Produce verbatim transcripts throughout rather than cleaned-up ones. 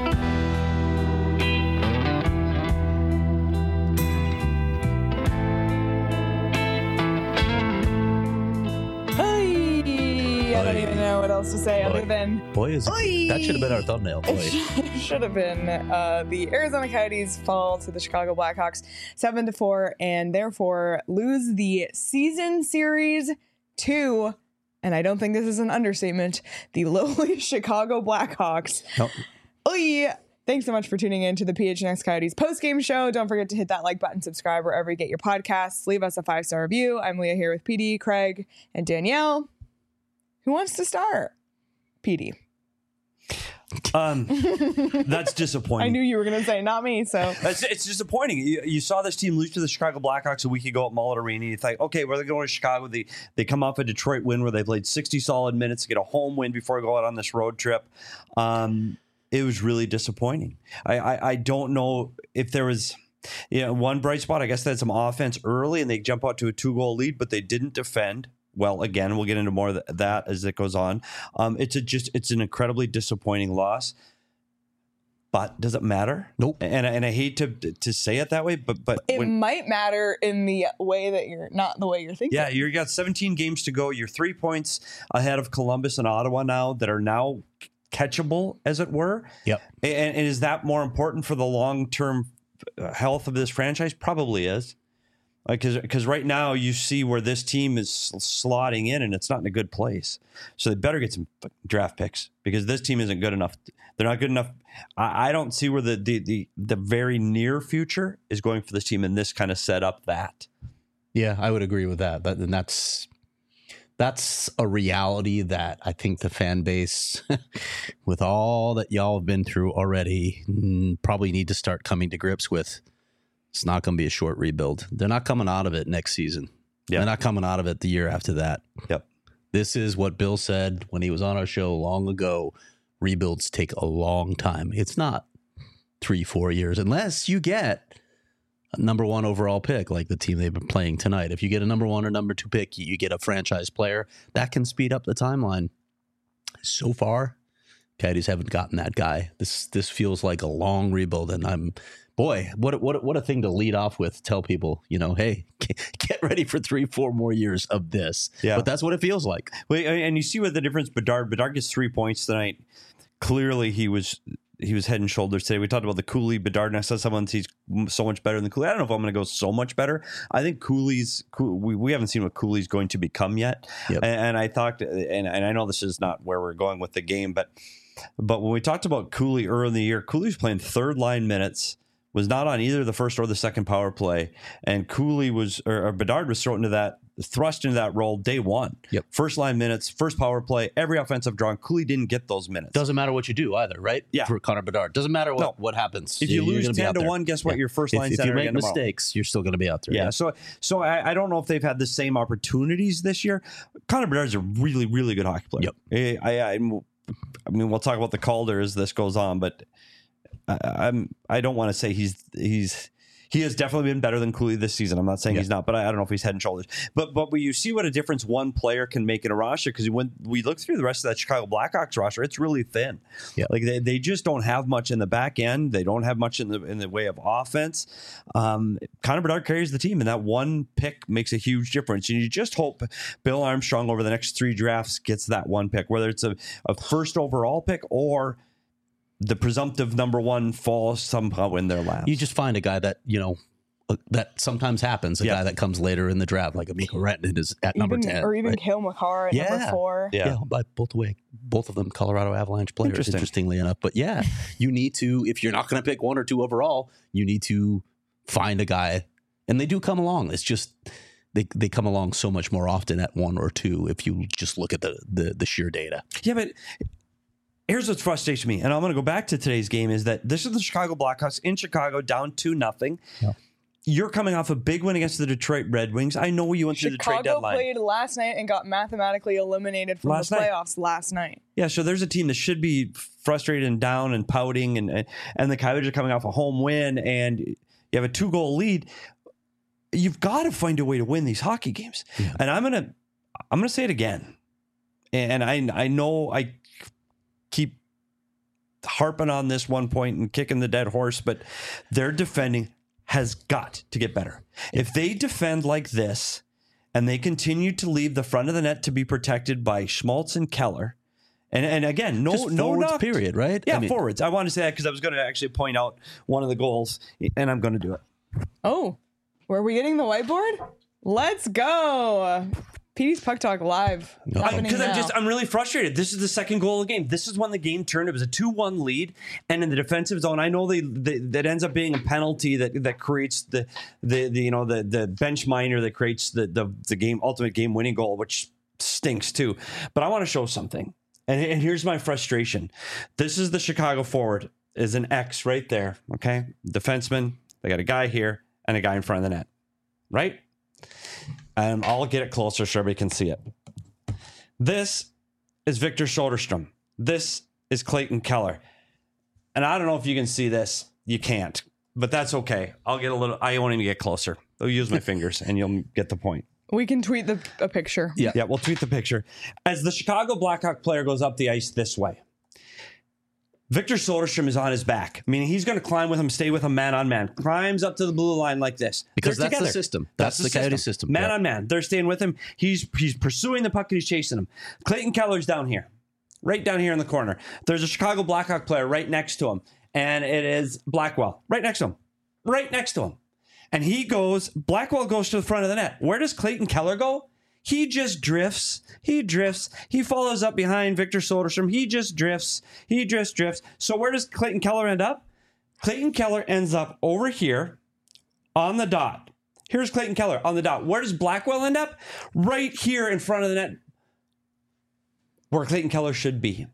I don't even know what else to say other than boy is it, that should have been our thumbnail. Boy, it should have been. Uh, the Arizona Coyotes fall to the Chicago Blackhawks seven to four, and therefore lose the season series to, and I don't think this is an understatement, the lowly Chicago Blackhawks. Nope. Oy. Thanks so much for tuning in to the P H N X Coyotes post-game show. Don't forget to hit that like button, subscribe wherever you get your podcasts. Leave us a five-star review. I'm Leah here with P D, Craig, and Danielle. Who wants to start? P D. Um, that's disappointing. I knew you were going to say not me, so. That's, it's disappointing. You, you saw this team lose to the Chicago Blackhawks a week ago at Mullet Arena. You think, okay, well, they're going to Chicago. They, they come off a Detroit win where they played sixty solid minutes to get a home win before they go out on this road trip. Um, it was really disappointing. I, I, I don't know if there was... You know, one bright spot, I guess they had some offense early and they jump out to a two-goal lead, but they didn't defend. Well, again, we'll get into more of that as it goes on. Um, it's a just it's an incredibly disappointing loss. But does it matter? Nope. And and I hate to to say it that way, but but it when, might matter in the way that you're not the way you're thinking. Yeah, you got seventeen games to go. You're three points ahead of Columbus and Ottawa now that are now catchable, as it were. Yep. And, and is that more important for the long term health of this franchise? Probably is. Because because right now you see where this team is slotting in and it's not in a good place. So they better get some draft picks because this team isn't good enough. They're not good enough. I, I don't see where the, the the the very near future is going for this team, and this kind of set up that. Yeah, I would agree with that. That and that's that's a reality that I think the fan base, with all that y'all have been through already, probably need to start coming to grips with. It's not going to be a short rebuild. They're not coming out of it next season. Yep. They're not coming out of it the year after that. Yep. This is what Bill said when he was on our show long ago. Rebuilds take a long time. It's not three, four years, unless you get a number one overall pick like the team they've been playing tonight. If you get a number one or number two pick, you get a franchise player. That can speed up the timeline. So far, Coyotes haven't gotten that guy. This this feels like a long rebuild, and I'm... Boy, what what what a thing to lead off with. Tell people, you know, hey, get ready for three, four more years of this. Yeah. But that's what it feels like. Well, and you see what the difference. Bedard, Bedard gets three points tonight. Clearly, he was he was head and shoulders today. We talked about the Cooley Bedard. And I saw someone he's so much better than Cooley. I don't know if I'm going to go so much better. I think Cooley's we we haven't seen what Cooley's going to become yet. Yep. And, and I thought, and, and I know this is not where we're going with the game, but but when we talked about Cooley early in the year, Cooley's playing third line minutes. Was not on either the first or the second power play, and Cooley was or, or Bedard was thrown into that, thrust into that role day one. Yep. First line minutes, first power play, every offensive draw. Cooley didn't get those minutes. Doesn't matter what you do either, right? Yeah. For Connor Bedard, doesn't matter what, no. what happens. If you You're lose ten to there. one, guess what? Yeah. Your first line if, center if you make again mistakes, tomorrow. You're still going to be out there. Yeah. yeah. So so I, I don't know if they've had the same opportunities this year. Connor Bedard's a really really good hockey player. Yep. I, I I mean we'll talk about the Calder as this goes on, but. I, I'm. I don't want to say he's he's he has definitely been better than Cooley this season. I'm not saying yeah. he's not, but I, I don't know if he's head and shoulders. But but when you see what a difference one player can make in a roster, because when we look through the rest of that Chicago Blackhawks roster, it's really thin. Yeah. Like they, they just don't have much in the back end. They don't have much in the in the way of offense. Um, Connor Bedard carries the team, and that one pick makes a huge difference. And you just hope Bill Armstrong over the next three drafts gets that one pick, whether it's a, a first overall pick or the presumptive number one falls somehow in their laps. You just find a guy that, you know, uh, that sometimes happens, a yeah. guy that comes later in the draft, like Mikko Rantanen is at even, number ten. Or even right? Cale Makar at yeah. number four. Yeah. yeah, by both the way, both of them Colorado Avalanche players, Interesting. interestingly enough. But yeah, you need to, if you're not going to pick one or two overall, you need to find a guy, and they do come along. It's just they they come along so much more often at one or two if you just look at the the, the sheer data. Yeah, but here's what's frustrating me, and I'm going to go back to today's game, is that this is the Chicago Blackhawks in Chicago down two nothing. Yeah. You're coming off a big win against the Detroit Red Wings. I know you went through the trade Chicago deadline. played last night and got mathematically eliminated from Last the night. playoffs last night. Yeah, so there's a team that should be frustrated and down and pouting, and and the Coyotes are coming off a home win, and you have a two goal lead. You've got to find a way to win these hockey games, Yeah. and I'm gonna I'm gonna say it again, and I I know I keep harping on this one point and kicking the dead horse, but their defending has got to get better. If they defend like this and they continue to leave the front of the net to be protected by Schmaltz and Keller, and, and again, no, Just no forwards, knock. period, right? Yeah, I mean, forwards. I want to say that because I was going to actually point out one of the goals, and I'm going to do it. Oh, were we getting the whiteboard? Let's go. P D's Puck Talk live. happening Because I'm now. just, I'm really frustrated. This is the second goal of the game. This is when the game turned. It was a two one lead. And in the defensive zone, I know they, they that ends up being a penalty that, that creates the, the, the, you know, the, the bench minor that creates the, the, the game, ultimate game winning goal, which stinks too. But I want to show something. And, and here's my frustration. This is the Chicago forward, is an X right there. Okay. Defenseman. They got a guy here and a guy in front of the net. Right? And I'll get it closer so everybody can see it. This is Victor Soderstrom. This is Clayton Keller. And I don't know if you can see this. You can't. But that's okay. I'll get a little... I won't even get closer. I'll use my fingers and you'll get the point. We can tweet the a picture. Yeah. Yeah, we'll tweet the picture. As the Chicago Blackhawk player goes up the ice this way, Victor Soderstrom is on his back, meaning he's going to climb with him, stay with him man on man, climbs up to the blue line like this. Because They're that's together. the system. That's, the Coyote system. Man Yeah. on man. They're staying with him. He's he's pursuing the puck and he's chasing him. Clayton Keller's down here, right down here in the corner. There's a Chicago Blackhawk player right next to him, and it is Blackwell, right next to him, right next to him. And he goes, Blackwell goes to the front of the net. Where does Clayton Keller go? He just drifts. He drifts. He follows up behind Victor Soderstrom. He just drifts. He just drifts. So where does Clayton Keller end up? Clayton Keller ends up over here on the dot. Here's Clayton Keller on the dot. Where does Blackwell end up? Right here in front of the net where Clayton Keller should be.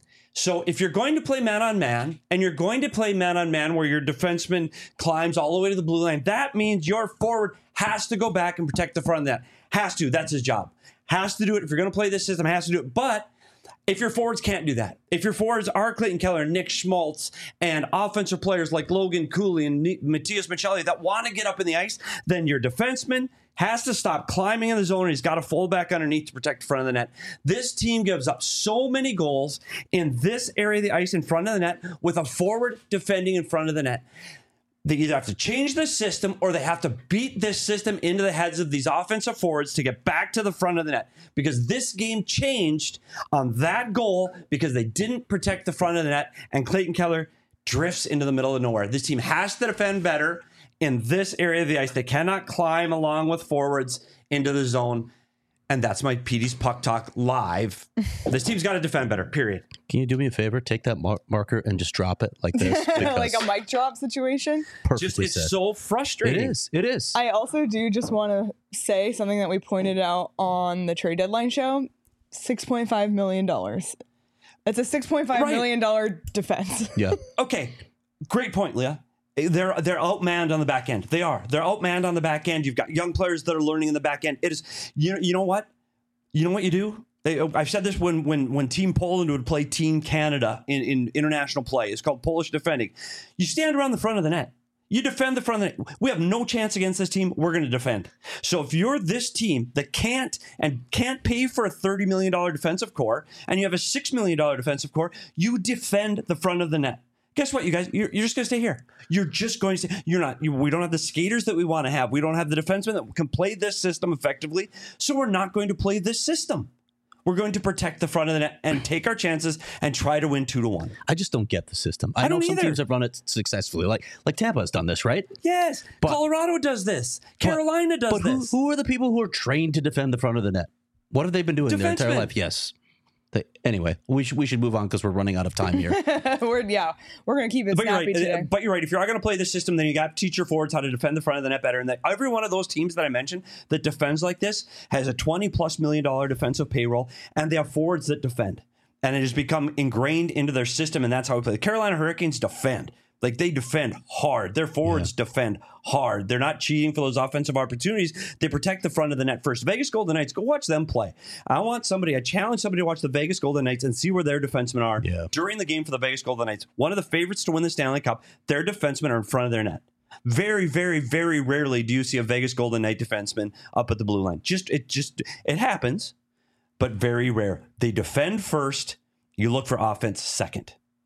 So if you're going to play man on man and you're going to play man on man where your defenseman climbs all the way to the blue line, that means your forward has to go back and protect the front of that. Has to. That's his job. Has to do it. If you're going to play this system, has to do it. But if your forwards can't do that, if your forwards are Clayton Keller, Nick Schmaltz, and offensive players like Logan Cooley and Matthias Michelli that want to get up in the ice, then your defenseman has to stop climbing in the zone and he's got to fold back underneath to protect the front of the net. This team gives up so many goals in this area of the ice in front of the net with a forward defending in front of the net. They either have to change the system or they have to beat this system into the heads of these offensive forwards to get back to the front of the net. Because this game changed on that goal because they didn't protect the front of the net and Clayton Keller drifts into the middle of nowhere. This team has to defend better in this area of the ice. They cannot climb along with forwards into the zone. And that's my P D's Puck Talk live. This team's got to defend better, period. Can you do me a favor? Take that mar- marker and just drop it like this. Like a mic drop situation. Perfectly Just, it's said. so It frustrating. is. It is. I also do just want to say something that we pointed out on the trade deadline show. six point five million dollars. It's a six point five Right. million dollars defense. yeah. Okay, great point, Leah. They're they're outmanned on the back end. They are. They're outmanned on the back end. You've got young players that are learning in the back end. It is. You know. You know what? You know what you do? They, I've said this when when when Team Poland would play Team Canada in, in international play. It's called Polish defending. You stand around the front of the net. You defend the front of the net. We have no chance against this team. We're going to defend. So if you're this team that can't and can't pay for a thirty million dollars defensive core and you have a six million dollars defensive core, you defend the front of the net. Guess what, you guys? You're, you're just going to stay here. You're just going to stay. You're not. You, we don't have the skaters that we want to have. We don't have the defensemen that can play this system effectively. So we're not going to play this system. We're going to protect the front of the net and take our chances and try to win two to one. I just don't get the system. I, I know don't some either. teams have run it successfully. Like like Tampa has done this, right? Yes, But- Colorado does this. Carolina does But who, this. who are the people who are trained to defend the front of the net? What have they been doing their entire Defensemen. life? Yes. They, anyway, we should we should move on because we're running out of time here. we're yeah, we're gonna keep it But you're snappy right. today. uh, But you're right. If you are going to play this system, then you got to teach your forwards how to defend the front of the net better. And that every one of those teams that I mentioned that defends like this has a twenty plus million dollar defensive payroll, and they have forwards that defend. And it has become ingrained into their system, and that's how we play. The Carolina Hurricanes defend. Like, they defend hard. Their forwards defend hard. They're not cheating for those offensive opportunities. They protect the front of the net first. Vegas Golden Knights, go watch them play. I want somebody, I challenge somebody to watch the Vegas Golden Knights and see where their defensemen are Yeah. during the game for the Vegas Golden Knights. One of the favorites to win the Stanley Cup, their defensemen are in front of their net. Very, very, very rarely do you see a Vegas Golden Knight defenseman up at the blue line. Just it just it happens, but very rare. They defend first. You look for offense second.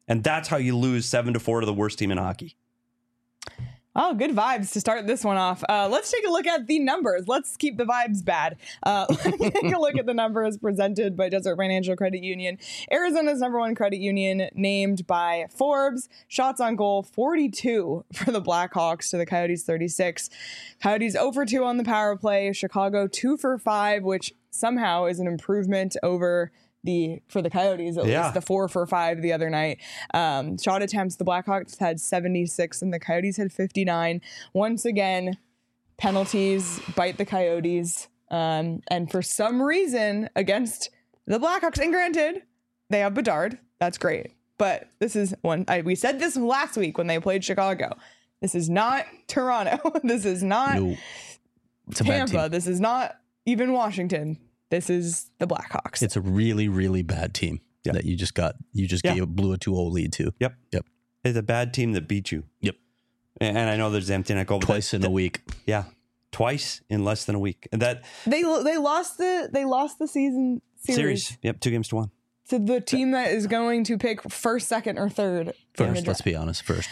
And that's how you lose seven to four to the worst team in hockey. Oh, good vibes to start this one off. Uh, let's take a look at the numbers. Let's keep the vibes bad. Uh, let's take a look at the numbers presented by Desert Financial Credit Union. Arizona's number one credit union, named by Forbes. Shots on goal, forty-two for the Blackhawks to the Coyotes thirty-six. Coyotes zero for two on the power play. Chicago two for five, which somehow is an improvement over the for the Coyotes, at Yeah. least the four for five the other night. Um, shot attempts, the Blackhawks had seventy-six and the Coyotes had fifty-nine. Once again, penalties bite the Coyotes. Um, and for some reason, against the Blackhawks, and granted, they have Bedard. That's great. But this is one, I, we said this last week when they played Chicago. This is not Toronto. This is not No. It's a bad Tampa. team. This is not even Washington. This is the Blackhawks. It's a really, really bad team Yeah. that you just got. You just Yeah. gave blew a two oh lead to. Yep. Yep. It's a bad team that beat you. Yep. And and I know there's empty net goal. but Twice that- in that- a week. Yeah. Twice in less than a week. And that They they lost the they lost the season series, series. Yep. Two games to one. to the team that is going to pick first, second, or third. in the First, let's draft. be honest. First.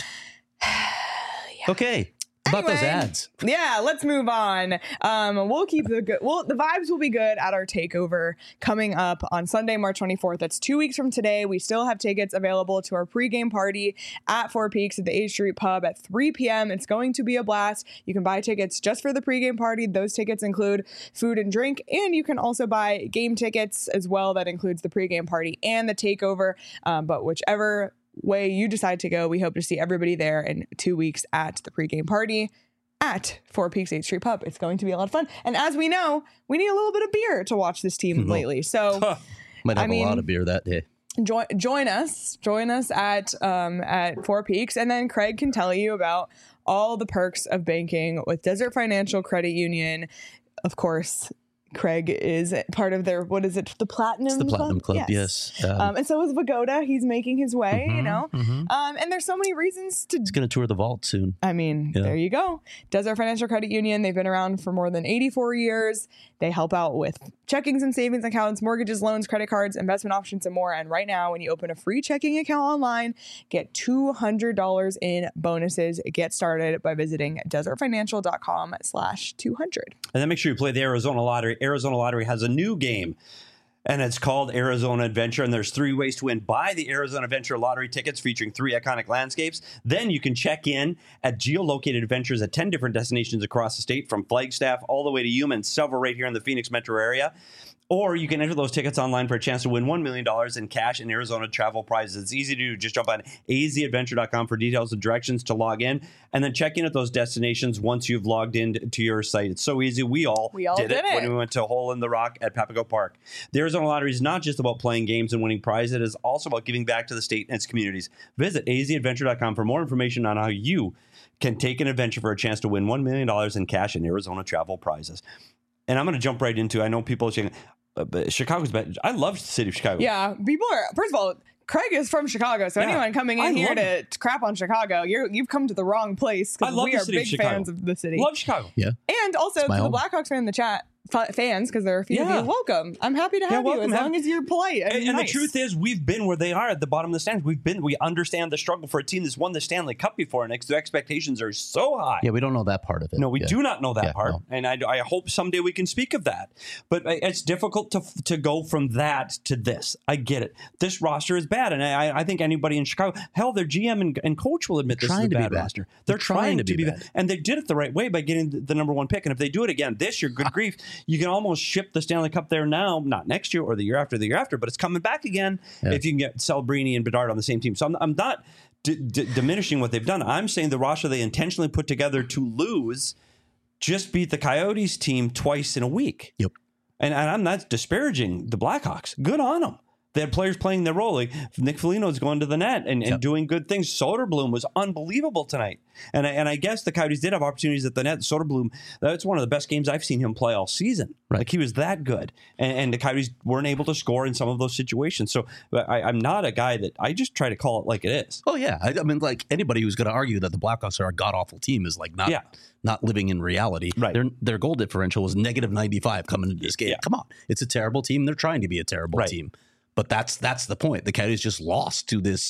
Okay. About those Anyway, ads. Yeah, let's move on. Um, we'll keep the good. Well, the vibes will be good at our takeover coming up on Sunday, March twenty-fourth. That's two weeks from today. We still have tickets available to our pregame party at Four Peaks at the A Street Pub at three p.m. It's going to be a blast. You can buy tickets just for the pregame party. Those tickets include food and drink, and you can also buy game tickets as well. That includes the pregame party and the takeover. Um, but whichever way you decide to go, we hope to see everybody there in two weeks at the pregame party at Four Peaks eighth Street Pub. It's going to be a lot of fun. And as we know, we need a little bit of beer to watch this team lately. So Might have I mean- a lot of beer that day. join join us. Join us at um, at Four Peaks. And then Craig can tell you about all the perks of banking with Desert Financial Credit Union. Of course, Craig is part of their, what is it, the Platinum It's the Platinum Club, Yes. yes. Um, Um, and so is Vagoda. He's making his way, you mhm, know. mhm. Um, and there's so many reasons to He's going to tour the vault soon. I mean, Yeah. there you go. Desert Financial Credit Union. They've been around for more than eighty-four years. They help out with checkings and savings accounts, mortgages, loans, credit cards, investment options, and more. And right now, when you open a free checking account online, get two hundred dollars in bonuses. Get started by visiting desertfinancial.com slash 200. And then make sure you play the Arizona Lottery. Arizona Lottery has a new game, and it's called Arizona Adventure. And there's three ways to win. Buy the Arizona Adventure lottery tickets featuring three iconic landscapes. Then you can check in at geolocated adventures at ten different destinations across the state, from Flagstaff all the way to Yuma, and several right here in the Phoenix metro area. Or you can enter those tickets online for a chance to win one million dollars in cash and Arizona travel prizes. It's easy to do. Just jump on a z adventure dot com for details and directions to log in, and then check in at those destinations once you've logged in to your site. It's so easy. We all, We all did, did it, it. when we went to Hole in the Rock at Papago Park. The Arizona Lottery is not just about playing games and winning prizes. It is also about giving back to the state and its communities. Visit a z adventure dot com for more information on how you can take an adventure for a chance to win one million dollars in cash and Arizona travel prizes. And I'm going to jump right into, I know people are saying, uh, but Chicago's bad. I love the city of Chicago. Yeah, people are, first of all, Craig is from Chicago, so Yeah, anyone coming I in here love to, to crap on Chicago, you're, you've come to the wrong place, I because love we the are city of big Chicago. fans of the city. Love Chicago. Yeah. And also It's to my the home. Blackhawks fan in the chat, f- fans, because there are a few Yeah. of you, welcome. I'm happy to have you welcome. as Have- long as you're polite and, And, and nice. the truth is, we've been where they are at the bottom of the stands. We've been, we understand the struggle for a team that's won the Stanley Cup before, and ex- the expectations are so high. Yeah, we don't know that part of it. No, we Yeah. do not know that Yeah, part, no. and I, I hope someday we can speak of that. But it's difficult to to go from that to this. I get it. This roster is bad, and I, I think anybody in Chicago, hell, their G M and, and coach will admit this is a trying to be bad bad. roster. They're, trying, to be, bad. and they did it the right way by getting the, the number one pick. And if they do it again this year, good grief, you can almost ship the Stanley Cup there now, not next year or the year after the year after, but it's coming back again Yeah. if you can get Celebrini and Bedard on the same team. So I'm, I'm not d- d- diminishing what they've done. I'm saying the roster they intentionally put together to lose just beat the Coyotes team twice in a week. Yep. And, and I'm not disparaging the Blackhawks. Good on them. They had players playing their role. Like Nick Foligno's going to the net and, and Yep. doing good things. Soderblom was unbelievable tonight. And I, and I guess the Coyotes did have opportunities at the net. Soderblom, that's one of the best games I've seen him play all season. Right. Like he was that good. And, and the Coyotes weren't able to score in some of those situations. So but I, I'm not a guy that I just try to call it like it is. Oh yeah, I, I mean, like anybody who's going to argue that the Blackhawks are a god awful team is like not Yeah. not living in reality. Right. Their their goal differential was negative ninety-five coming into this game. Yeah. Come on, it's a terrible team. They're trying to be a terrible Right. team, but that's that's the point. The Coyotes just lost to this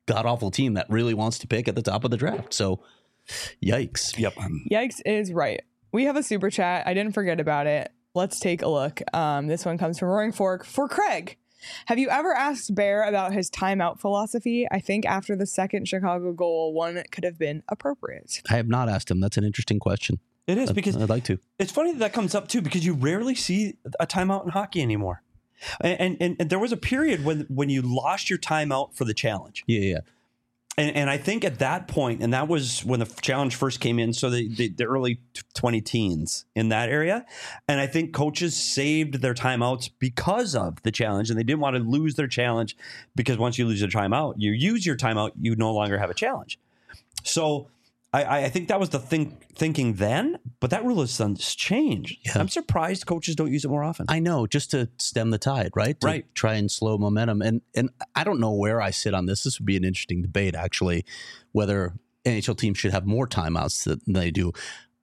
god awful team that really wants to pick at the top of the draft. So, yikes. Yep. Yikes is right. We have a super chat. I didn't forget about it. Let's take a look. Um, this one comes from Roaring Fork for Craig. Have you ever asked Bear about his timeout philosophy? I think after the second Chicago goal, one could have been appropriate. I have not asked him. That's an interesting question. It is, because I'd like to. It's funny that that comes up too, because you rarely see a timeout in hockey anymore. And, and and there was a period when when you lost your timeout for the challenge. Yeah, yeah. And and I think at that point, and that was when the challenge first came in, so the, the, the early twenty teens in that area. And I think coaches saved their timeouts because of the challenge, and they didn't want to lose their challenge, because once you lose your timeout, you use your timeout, you no longer have a challenge. So I, I think that was the think, thinking then, but that rule has since changed. Yeah. I'm surprised coaches don't use it more often. I know, just to stem the tide, right? To Right. try and slow momentum. And and I don't know where I sit on this. This would be an interesting debate, actually, whether N H L teams should have more timeouts than they do.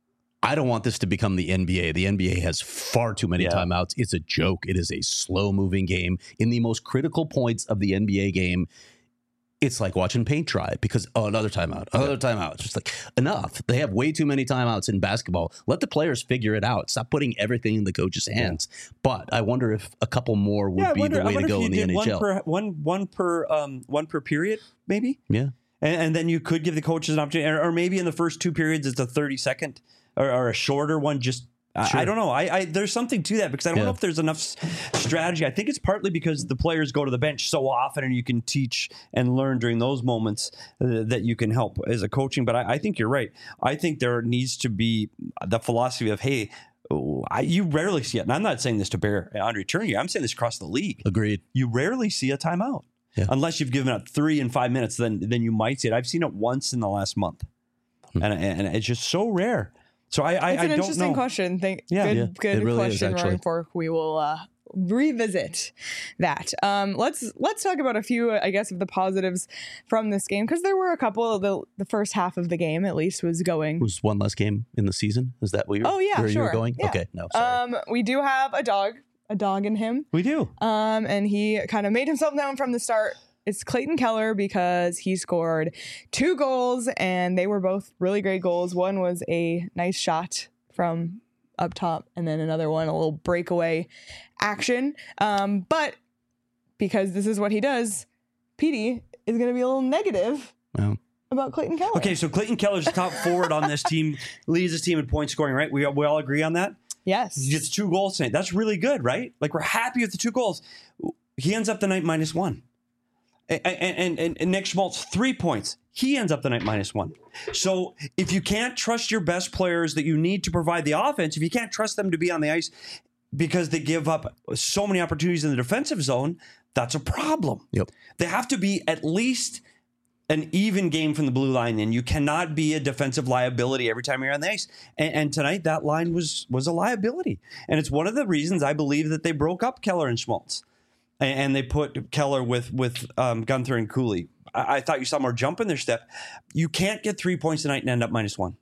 I don't want this to become the N B A. The N B A has far too many Yeah. timeouts. It's a joke. It is a slow-moving game. In the most critical points of the N B A game, it's like watching paint dry, because, oh, another timeout, another timeout. It's just like, enough. They have way too many timeouts in basketball. Let the players figure it out. Stop putting everything in the coach's hands. Yeah. But I wonder if a couple more would yeah, be wonder, the way to go in the N H L. One per, one, one per, um, one per period, maybe? Yeah. And, and then you could give the coaches an opportunity, or, or maybe in the first two periods, it's a thirty second or, or a shorter one. Just, Sure. I, I don't know. I, I There's something to that, because I don't Yeah. know if there's enough s- strategy. I think it's partly because the players go to the bench so often, and you can teach and learn during those moments uh, that you can help as a coaching. But I, I think you're right. I think there needs to be the philosophy of, hey, oh, I, you rarely see it. And I'm not saying this to Bear Andre Tournier. I'm saying this across the league. Agreed. You rarely see a timeout. Yeah. Unless you've given up three in five minutes, then then you might see it. I've seen it once in the last month. Hmm. And, and it's just so rare. So I, I, It's I an don't interesting know. question. Think, Yeah. good, Yeah, good it really is, question, actually. Roaring Fork. We will uh, revisit that. Um, let's let's talk about a few, I guess, of the positives from this game, because there were a couple of the the first half of the game, at least, was going. Was one less game in the season? Is that where you're, Oh, yeah, where sure. you were going? Yeah. Okay, no, sorry. Um, we do have a dog, a dog in him. We do. Um, and he kind of made himself known from the start. It's Clayton Keller, because he scored two goals, and they were both really great goals. One was a nice shot from up top, and then another one, a little breakaway action. Um, but because this is what he does, Petey is going to be a little negative Well, about Clayton Keller. Okay, so Clayton Keller's the top forward on this team, leads his team in point scoring, right? We, we all agree on that? Yes. He gets two goals tonight. That's really good, right? Like, we're happy with the two goals. He ends up the night minus one. And, and, and, and Nick Schmaltz, three points. He ends up the night minus one. So if you can't trust your best players that you need to provide the offense, if you can't trust them to be on the ice because they give up so many opportunities in the defensive zone, that's a problem. Yep. They have to be at least an even game from the blue line, and you cannot be a defensive liability every time you're on the ice. And, and tonight, that line was was a liability. And it's one of the reasons I believe that they broke up Keller and Schmaltz. And they put Keller with with um, Gunther and Cooley. I, I thought you saw more jump in their step. You can't get three points tonight and end up minus one.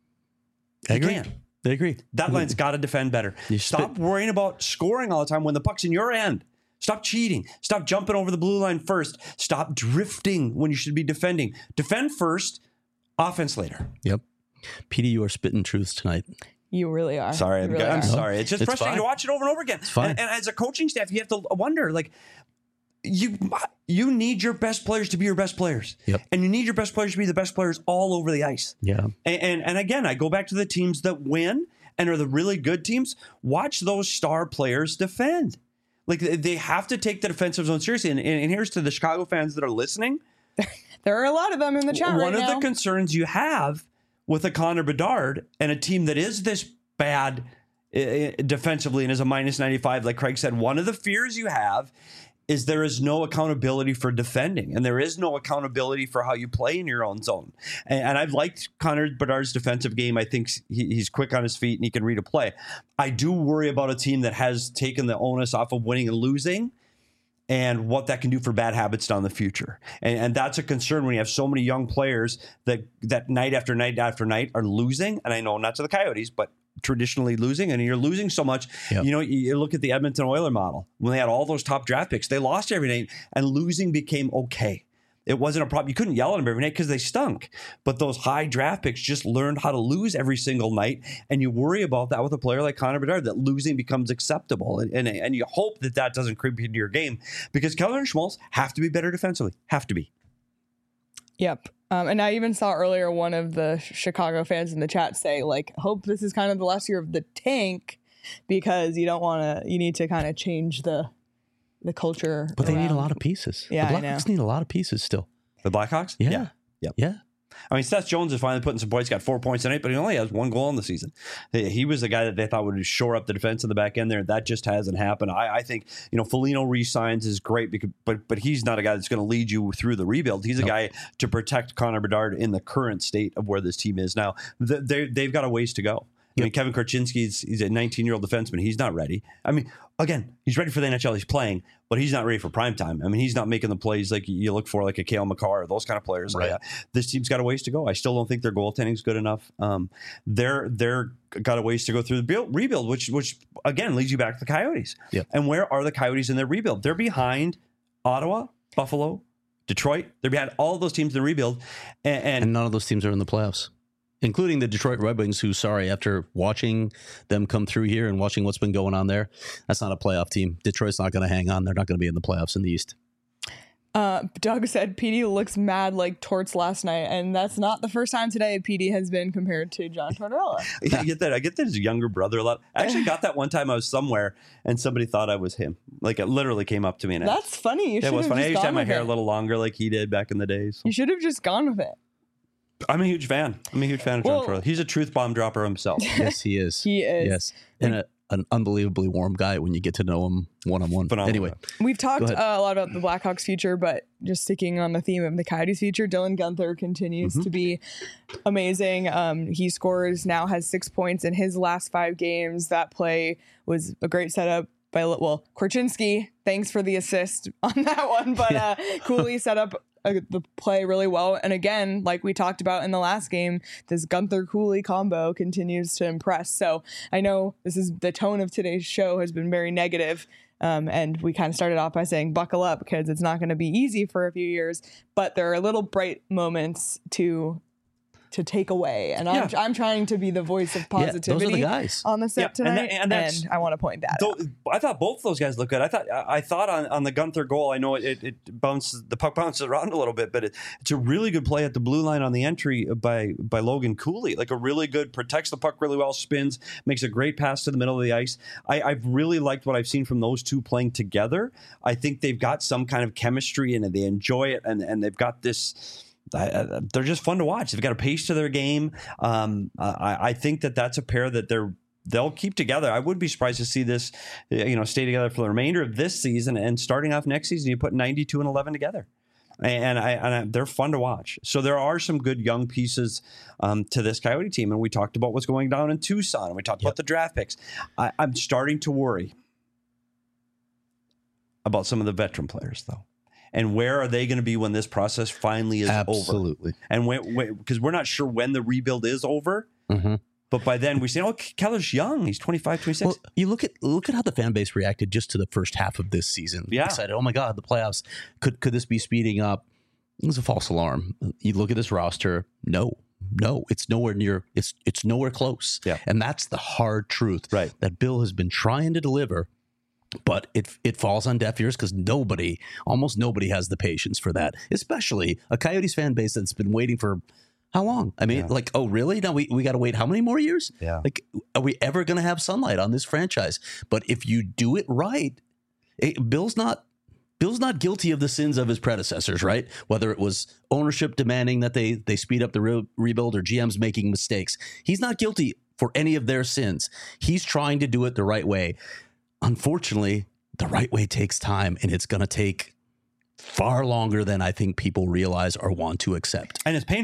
I You agree. can't. I agree. That line's got to defend better. You Stop spit- worrying about scoring all the time when the puck's in your end. Stop cheating. Stop jumping over the blue line first. Stop drifting when you should be defending. Defend first, offense later. Yep. Petey, you are spitting truths tonight. You really are. Sorry, You I'm, really I'm are. sorry. It's just It's frustrating fine. to watch it over and over again. fine. And, and as a coaching staff, you have to wonder, like, you you need your best players to be your best players. Yep. And you need your best players to be the best players all over the ice. Yeah. And, and and again, I go back to the teams that win and are the really good teams. Watch those star players defend. Like, they have to take the defensive zone seriously. And, and here's to the Chicago fans that are listening. There are a lot of them in the chat One right of now. the concerns you have with a Connor Bedard and a team that is this bad uh, defensively and is a minus ninety-five, like Craig said, one of the fears you have is there is no accountability for defending, and there is no accountability for how you play in your own zone. And, and I've liked Connor Bedard's defensive game. I think he, he's quick on his feet and he can read a play. I do worry about a team that has taken the onus off of winning and losing, and what that can do for bad habits down the future. And, and that's a concern when you have so many young players that that night after night after night are losing. And I know not to the Coyotes, but traditionally losing. And you're losing so much. Yep. You know, you, you look at the Edmonton Oilers model. When they had all those top draft picks, they lost every night, and losing became okay. It wasn't a problem. You couldn't yell at them every night because they stunk. But those high draft picks just learned how to lose every single night. And you worry about that with a player like Connor Bedard, that losing becomes acceptable. And, and, and you hope that that doesn't creep into your game, because Keller and Schmaltz have to be better defensively. Have to be. Yep. Um, and I even saw earlier one of the Chicago fans in the chat say, like, hope this is kind of the last year of the tank, because you don't want to, you need to kind of change the the culture. But they around. need a lot of pieces. Yeah, the I know. Blackhawks need a lot of pieces still. The Blackhawks? Yeah. Yeah. Yep. Yeah. I mean, Seth Jones is finally putting some points. Got four points tonight, but he only has one goal in the season. He he was the guy that they thought would shore up the defense in the back end there. That just hasn't happened. I, I think, you know, Foligno re-signs is great, because, but but he's not a guy that's going to lead you through the rebuild. He's a Nope. guy to protect Connor Bedard in the current state of where this team is now. They, they've got a ways to go. I mean, Kevin Korchinski's he's a nineteen-year-old defenseman. He's not ready. I mean, again, he's ready for the N H L. He's playing, but he's not ready for prime time. I mean, he's not making the plays like you look for, like a Cale Makar or those kind of players. Right. Uh, this team's got a ways to go. I still don't think their goaltending's good enough. Um, they're they're got a ways to go through the build, rebuild, which which again leads you back to the Coyotes. Yep. And where are the Coyotes in their rebuild? They're behind Ottawa, Buffalo, Detroit. They're behind all of those teams in the rebuild, and, and, And none of those teams are in the playoffs, including the Detroit Red Wings, who, sorry, after watching them come through here and watching what's been going on there, that's not a playoff team. Detroit's not going to hang on. They're not going to be in the playoffs in the East. Uh, Doug said P D looks mad like Torts last night, and that's not the first time today P D has been compared to John Tortorella. I get that. I get that his younger brother a lot. I actually got that one time I was somewhere and somebody thought I was him. Like, it literally came up to me. And That's funny. You I, it should was have funny. I just used to have gone my with hair it. a little longer like he did back in the day. So. You should have just gone with it. I'm a huge fan. I'm a huge fan of John Well- Tortorella. He's a truth bomb dropper himself. Yes, he is. He is. Yes. And a, an unbelievably warm guy when you get to know him one-on-one. Phenomenal Anyway, guy. We've talked Go uh, ahead. a lot about the Blackhawks future, but just sticking on the theme of the Coyotes future, Dylan Guenther continues Mm-hmm. to be amazing. Um, he scores now, has six points in his last five games. That play was a great setup by, well, Korchinski. Thanks for the assist on that one, but uh, Cooley set up uh, the play really well. And again, like we talked about in the last game, this Guenther Cooley combo continues to impress. So I know this is the tone of today's show has been very negative. Um, and we kind of started off by saying buckle up, because it's not going to be easy for a few years, but there are little bright moments to to take away. And I'm, Yeah. I'm trying to be the voice of yeah, those are positivity the guys. on the set Yeah, and tonight. that- And, and that's- I want to point that out. Though, I thought both those guys look good. I thought I I thought on, on the Guenther goal, I know it, it bounces, the puck bounces around a little bit, but it, it's a really good play at the blue line on the entry by by Logan Cooley. Like a really good, protects the puck really well, spins, makes a great pass to the middle of the ice. I, I've really liked what I've seen from those two playing together. I think they've got some kind of chemistry and they enjoy it, and, and they've got this. I, they're just fun to watch. They've got a pace to their game. Um, I, I think that that's a pair that they're they'll keep together. I would be surprised to see this, you know, stay together for the remainder of this season, and starting off next season, you put ninety-two and eleven together, and I, and I, they're fun to watch. So there are some good young pieces um, to this Coyote team, and we talked about what's going down in Tucson, and we talked Yep. about the draft picks. I, I'm starting to worry about some of the veteran players, though. And where are they going to be when this process finally is over? Absolutely. And when, because we're not sure when the rebuild is over, Mm-hmm. but by then we say, oh, Keller's young. He's twenty-five, twenty-six. Well, you look at look at how the fan base reacted just to the first half of this season. Yeah. Excited. Oh my God, the playoffs. Could could this be speeding up? It was a false alarm. You look at this roster. No, no, it's nowhere near. It's it's nowhere close. Yeah. And that's the hard truth. Right. That Bill has been trying to deliver, but it it falls on deaf ears because nobody, almost nobody, has the patience for that. Especially a Coyotes fan base that's been waiting for. How long? I mean, Yeah. like, oh, really? Now we, we got to wait how many more years? Yeah. Like, are we ever going to have sunlight on this franchise? But if you do it right, it, Bill's not Bill's not guilty of the sins of his predecessors, right? Whether it was ownership demanding that they they speed up the re- rebuild or G Ms making mistakes, he's not guilty for any of their sins. He's trying to do it the right way. Unfortunately, the right way takes time, and it's going to take far longer than I think people realize or want to accept. And it's painful.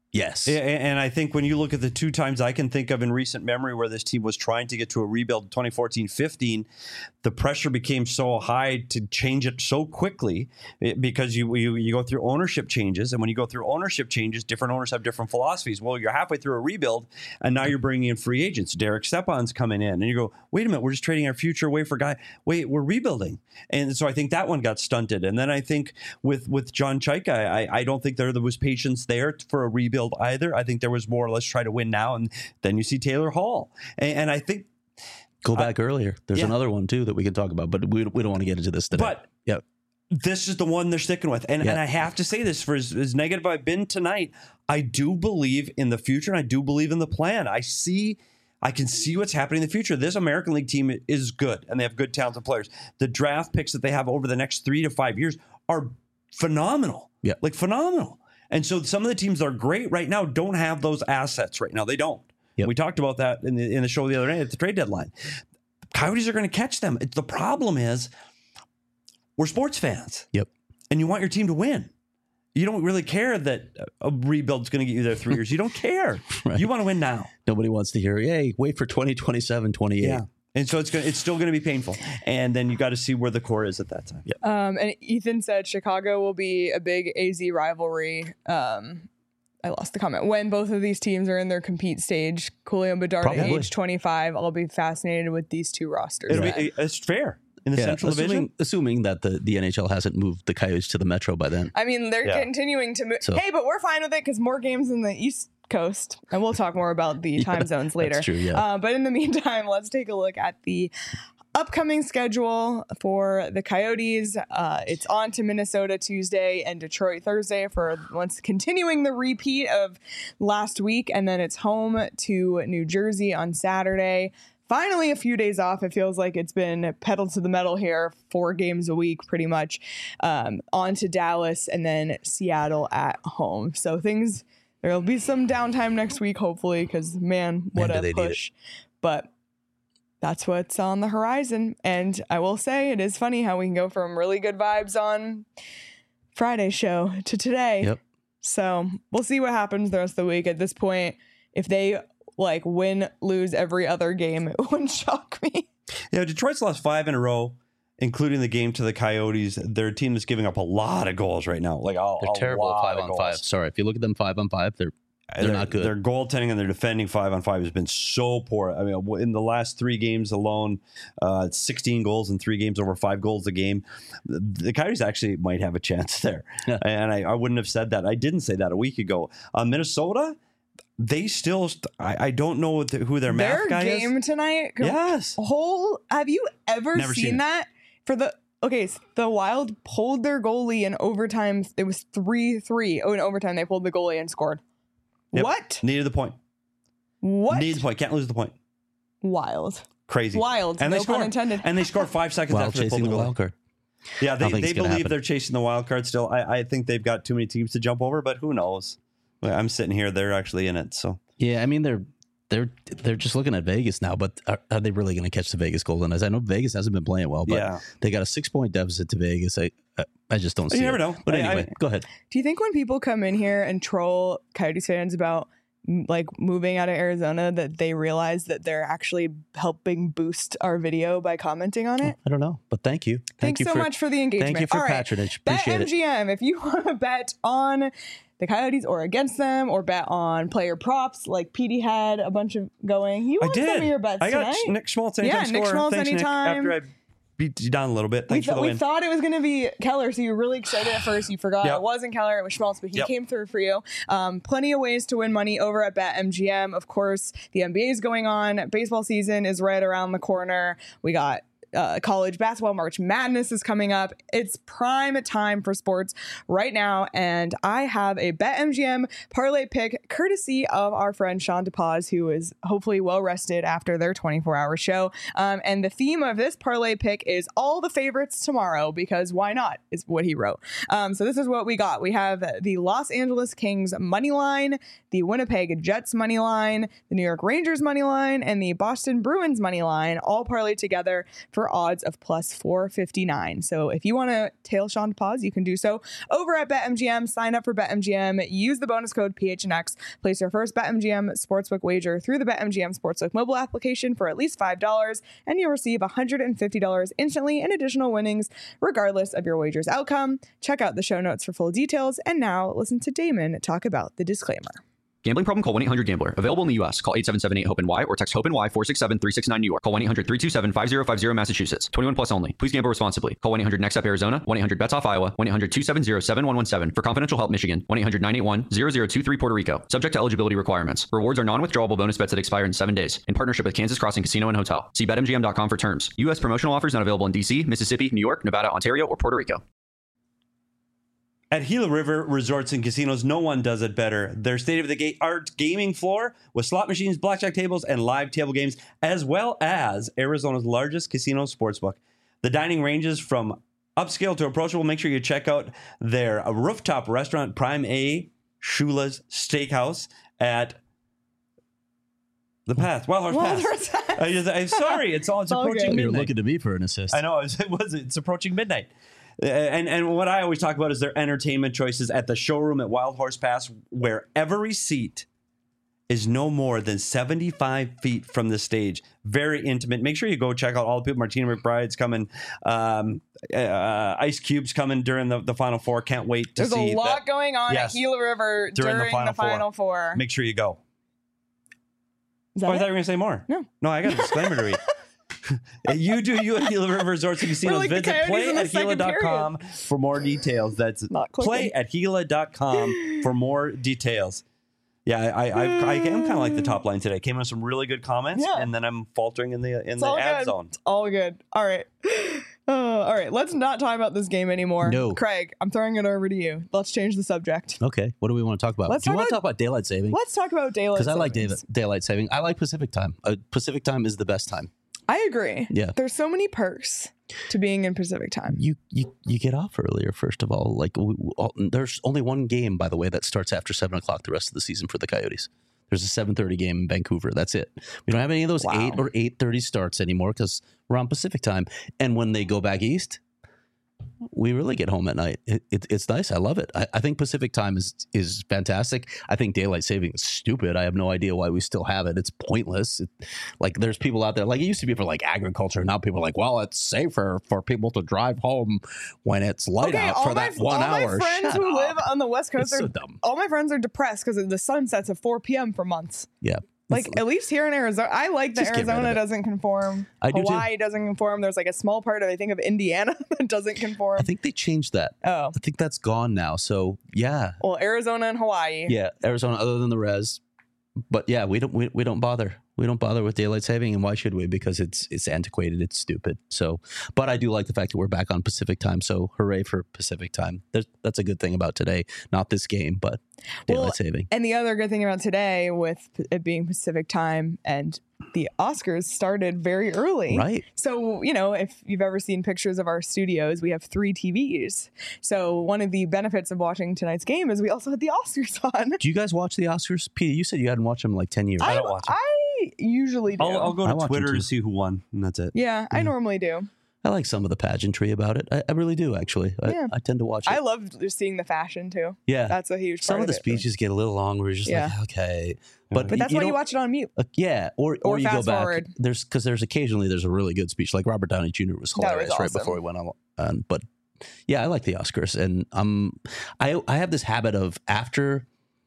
Yes. Yeah, and I think when you look at the two times I can think of in recent memory where this team was trying to get to a rebuild, twenty fourteen fifteen, the pressure became so high to change it so quickly because you, you you go through ownership changes. And when you go through ownership changes, different owners have different philosophies. Well, you're halfway through a rebuild, and now you're bringing in free agents. Derek Stepan's coming in. And you go, wait a minute, we're just trading our future away for a guy. Wait, we're rebuilding. And so I think that one got stunted. And then I think with, with John Chaika, I, I don't think there, there was patience there for a rebuild either. I think there was more, let's try to win now. And then you see Taylor Hall. And, and I think Go back uh, earlier. There's yeah. another one, too, that we can talk about, but we, we don't want to get into this today. But yeah. this is the one they're sticking with. And, yeah. and I have to say this, for as, as negative I've been tonight, I do believe in the future, and I do believe in the plan. I see, I can see what's happening in the future. This American League team is good, and they have good, talented players. The draft picks that they have over the next three to five years are phenomenal. Yeah. Like phenomenal. And so some of the teams that are great right now don't have those assets right now. They don't. Yep. We talked about that in the in the show the other day at the trade deadline. Coyotes are going to catch them. The problem is we're sports fans. Yep. And you want your team to win. You don't really care that a rebuild's going to get you there three years. You don't care. Right. You want to win now. Nobody wants to hear, hey, wait for twenty twenty-seven, twenty-eight. Yeah. And so it's going it's still going to be painful. And then you got to see where the core is at that time. Yep. Um, and Ethan said Chicago will be a big A Z rivalry. Um, I lost the comment. When both of these teams are in their compete stage, Coolio and Bedard at age twenty-five, I'll be fascinated with these two rosters. It'll be, it's fair in the yeah, Central assuming, Division. Assuming that the, the N H L hasn't moved the Coyotes to the Metro by then. I mean, they're yeah. continuing to move. So, hey, but we're fine with it because more games in the East Coast. And we'll talk more about the time yeah, zones later. That's true, yeah. Uh, but in the meantime, let's take a look at the upcoming schedule for the Coyotes. Uh, it's on to Minnesota Tuesday and Detroit Thursday for once continuing the repeat of last week. And then it's home to New Jersey on Saturday. Finally, a few days off. It feels like it's been pedal to the metal here, four games a week, pretty much. Um, on to Dallas and then Seattle at home. So things, there'll be some downtime next week, hopefully, because man, what man, a push. But that's what's on the horizon. And I will say it is funny how we can go from really good vibes on Friday's show to today. Yep. So we'll see what happens the rest of the week. At this point, if they like win, lose every other game, it wouldn't shock me. Yeah, Detroit's lost five in a row, including the game to the Coyotes. They're a team that's giving up a lot of goals right now. Like a, They're a terrible lot five of on goals. five. Sorry, if you look at them five on five, they're They're not good. Their goaltending and their defending five on five has been so poor. I mean, in the last three games alone, uh, it's sixteen goals in three games, over five goals a game. The, the Coyotes actually might have a chance there. Yeah. And I, I wouldn't have said that. I didn't say that a week ago. Uh, Minnesota, they still, I, I don't know what the, who their math Their guy is. game tonight. Yes. Whole. Have you ever Never seen, seen it. that? For the okay, so the Wild pulled their goalie in overtime. It was three three. Oh, in overtime they pulled the goalie and scored. Yep. What? Needed the point. What? Needed the point. Can't lose the point. Wild. Crazy. Wild. And no they scored. pun intended. And they scored five seconds while after they pulled chasing the the goal. wild card. Yeah, they, I don't think they it's gonna believe happen. they're chasing the wild card still. I, I think they've got too many teams to jump over, but who knows? Well, I'm sitting here; they're actually in it. So Yeah, I mean they're they're they're just looking at Vegas now, but are, are they really going to catch the Vegas Golden Knights? I know Vegas hasn't been playing well, but Yeah. they got a six point deficit to Vegas. I I, I just don't see. You never it. know. But I- anyway, I- go ahead. Do you think when people come in here and troll Coyotes fans about m- like moving out of Arizona that they realize that they're actually helping boost our video by commenting on it? I don't know, but thank you. Thank Thanks you so for, much for the engagement. Thank you for All right. patronage. Bet Appreciate it. M G M if you want to bet on the Coyotes or against them, or bet on player props like Petey had a bunch of going. You I won did. some of your bets I got tonight. Nick Schmaltz anytime Yeah, Nick scorer. Schmaltz Thanks, Nick, anytime. after I beat you down a little bit. We, Thanks th- for the we win. thought it was going to be Keller, so you were really excited at first. You forgot Yep. it wasn't Keller, it was Schmaltz, but he Yep. came through for you. Um, plenty of ways to win money over at BetMGM. Of course, the N B A is going on. Baseball season is right around the corner. We got uh, college basketball. March Madness is coming up. It's prime time for sports right now, and I have a BetMGM parlay pick courtesy of our friend Sean DePaz, who is hopefully well rested after their twenty-four hour show. Um, and the theme of this parlay pick is all the favorites tomorrow, because why not, is what he wrote. Um, so this is what we got. We have the Los Angeles Kings money line, the Winnipeg Jets money line, the New York Rangers money line, and the Boston Bruins money line, all parlayed together for for odds of plus four fifty-nine. So if you want to tail Sean to pause, you can do so over at BetMGM. Sign up for BetMGM. Use the bonus code P H N X. Place your first BetMGM Sportsbook wager through the BetMGM Sportsbook mobile application for at least five dollars, and you'll receive one hundred fifty dollars instantly in additional winnings, regardless of your wager's outcome. Check out the show notes for full details. And now listen to Damon talk about the disclaimer. Gambling problem? Call one eight hundred gambler. Available in the U S. Call eight seven seven eight hope N Y or text HOPE-NY four six seven three six nine New York. Call one eight hundred three two seven five zero five zero Massachusetts. twenty-one plus only. Please gamble responsibly. Call one eight hundred next up Arizona. one eight hundred bets off Iowa. one eight hundred two seven zero seven one one seven. For confidential help Michigan. one eight hundred nine eight one zero zero two three Puerto Rico. Subject to eligibility requirements. Rewards are non-withdrawable bonus bets that expire in seven days. In partnership with Kansas Crossing Casino and Hotel. See bet M G M dot com for terms. U S promotional offers not available in D C, Mississippi, New York, Nevada, Ontario, or Puerto Rico. At Gila River Resorts and Casinos, no one does it better. Their state-of-the-art gaming floor with slot machines, blackjack tables, and live table games, as well as Arizona's largest casino sportsbook. The dining ranges from upscale to approachable. Make sure you check out their rooftop restaurant, Prime A Shula's Steakhouse at the Path, Wild Horse Wild Pass. Horse Pass. I just, I'm sorry, it's all it's, It's all approaching good. midnight. You're looking to me for an assist. I know, it was. It's approaching midnight. Uh, and and what I always talk about is their entertainment choices at the showroom at Wild Horse Pass, where every seat is no more than seventy-five feet from the stage. Very intimate. Make sure you go check out all the people. Martina McBride's coming. Um, uh, Ice Cube's coming during the, the Final Four. Can't wait to There's see a lot that. going on Yes. at Gila River During during, the Final the Final Four. Make sure you go. Is Oh, that I it? thought you were going to say more. No. No, I got a disclaimer to read. You do you at Gila River Resorts and Casinos. like the Visit Coyotes play in the at Gila dot com for more details. That's Not clicking. play at Gila dot com for more details. Yeah, I I, I, I am kind of like the top line today. Came in with some really good comments, Yeah. and then I'm faltering in the in It's the all ad good. zone. It's all good. All right. Uh, all right. Let's not talk about this game anymore. No. Craig, I'm throwing it over to you. Let's change the subject. Okay, what do we want to talk about? Let's do you talk want to about- talk about daylight saving? Let's talk about daylight Because I like savings. day- daylight saving. I like Pacific time. Uh, Pacific time is the best time. I agree. Yeah. There's so many perks to being in Pacific time. You you you get off earlier. First of all, like we, we, all, there's only one game, by the way, that starts after seven o'clock the rest of the season for the Coyotes. There's a seven thirty game in Vancouver. That's it. We don't have any of those Wow. eight or eight thirty starts anymore because we're on Pacific time. And when they go back east, we really get home at night. It, it, it's nice. I love it. I, I think Pacific time is is fantastic. I think daylight saving is stupid. I have no idea why we still have it. It's pointless. It, like there's people out there, like it used to be for like agriculture. Now people are like, well, it's safer for people to drive home when it's light Okay, out all for my, that one all hour. my friends Shut who up. live on the West Coast It's are so dumb. all my friends are depressed because the sun sets at four p.m. for months. Yeah. Like at least here in Arizona, I like that Just get rid of Arizona it. doesn't conform. I do too. Hawaii doesn't conform. There's like a small part of I think of Indiana that doesn't conform. I think they changed that. oh, I think that's gone now. So yeah, well, Arizona and Hawaii. yeah, Arizona, other than the res, but yeah, we don't we, we don't bother. We don't bother with daylight saving, and why should we? Because it's it's antiquated, it's stupid. So, but I do like the fact that we're back on Pacific time. So, hooray for Pacific time. There's, that's a good thing about today. Not this game, but daylight Well, saving. And the other good thing about today, with it being Pacific time and the Oscars started very early. Right. So, you know, if you've ever seen pictures of our studios, we have three T Vs. So, one of the benefits of watching tonight's game is we also had the Oscars on. Do you guys watch the Oscars? Peter, you said you hadn't watched them in like ten years. I don't watch it. I usually do. I'll, I'll go I to watch them Twitter too. to see who won, and that's it. yeah, I normally do. I like some of the pageantry about it. I, I really do, actually. I, Yeah. I tend to watch it. I love just seeing the fashion too. yeah. That's a huge Some part of the it. speeches get a little long. We're just Yeah. like, okay. But, But that's why you don't- watch it on mute. Uh, yeah, or or, Or you go fast back. forward. There's because there's occasionally there's a really good speech, like Robert Downey Junior was That was hilarious right awesome. before he went on. on but yeah, I like the Oscars, and um, I I have this habit of after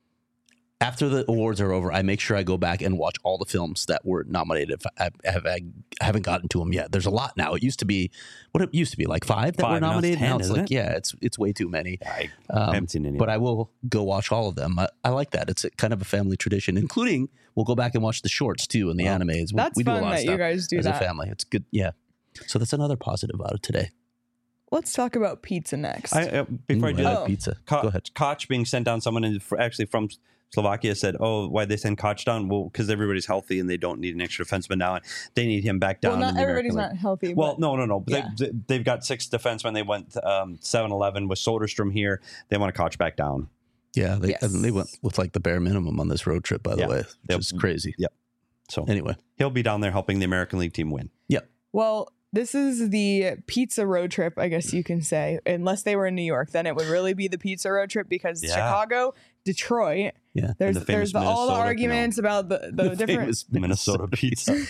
after the awards are over, I make sure I go back and watch all the films that were nominated. If I, have, I haven't gotten to them yet. There's a lot now. It used to be what it used to be like five that Five, were now it's nominated. ten, now it's isn't like it? yeah, it's it's way too many. I, Um, I haven't seen any. But I will go watch all of them. I, I like that. It's a, kind of a family tradition, including we'll go back and watch the shorts too and the Oh. animes. We, That's we do a fun lot of that you stuff guys do as that. a family. It's good. Yeah. So that's another positive out of today. Let's talk about pizza next. I, uh, before Ooh, I do I that, like pizza. Ko- Go ahead. Koch being sent down, someone in, fr- actually from Slovakia said, "Oh, why'd they send Koch down? Well, because everybody's healthy and they don't need an extra defenseman now, and they need him back down." well, not in the everybody's American not healthy. League. Well, but no, no, no. But yeah. they, they've got six defensemen. They went um, seven eleven with Soderstrom here. They want to Koch back down. Yeah. They, Yes. and they went with like the bare minimum on this road trip, by the Yeah. way, which Yep. is crazy. Yep. So Anyway. he'll be down there helping the American League team win. Well, This is the pizza road trip, I guess you can say. Unless they were in New York, then it would really be the pizza road trip because Yeah. Chicago, Detroit. Yeah. There's the famous there's the, all the Minnesota, arguments about the, the, The different. famous Minnesota pizza.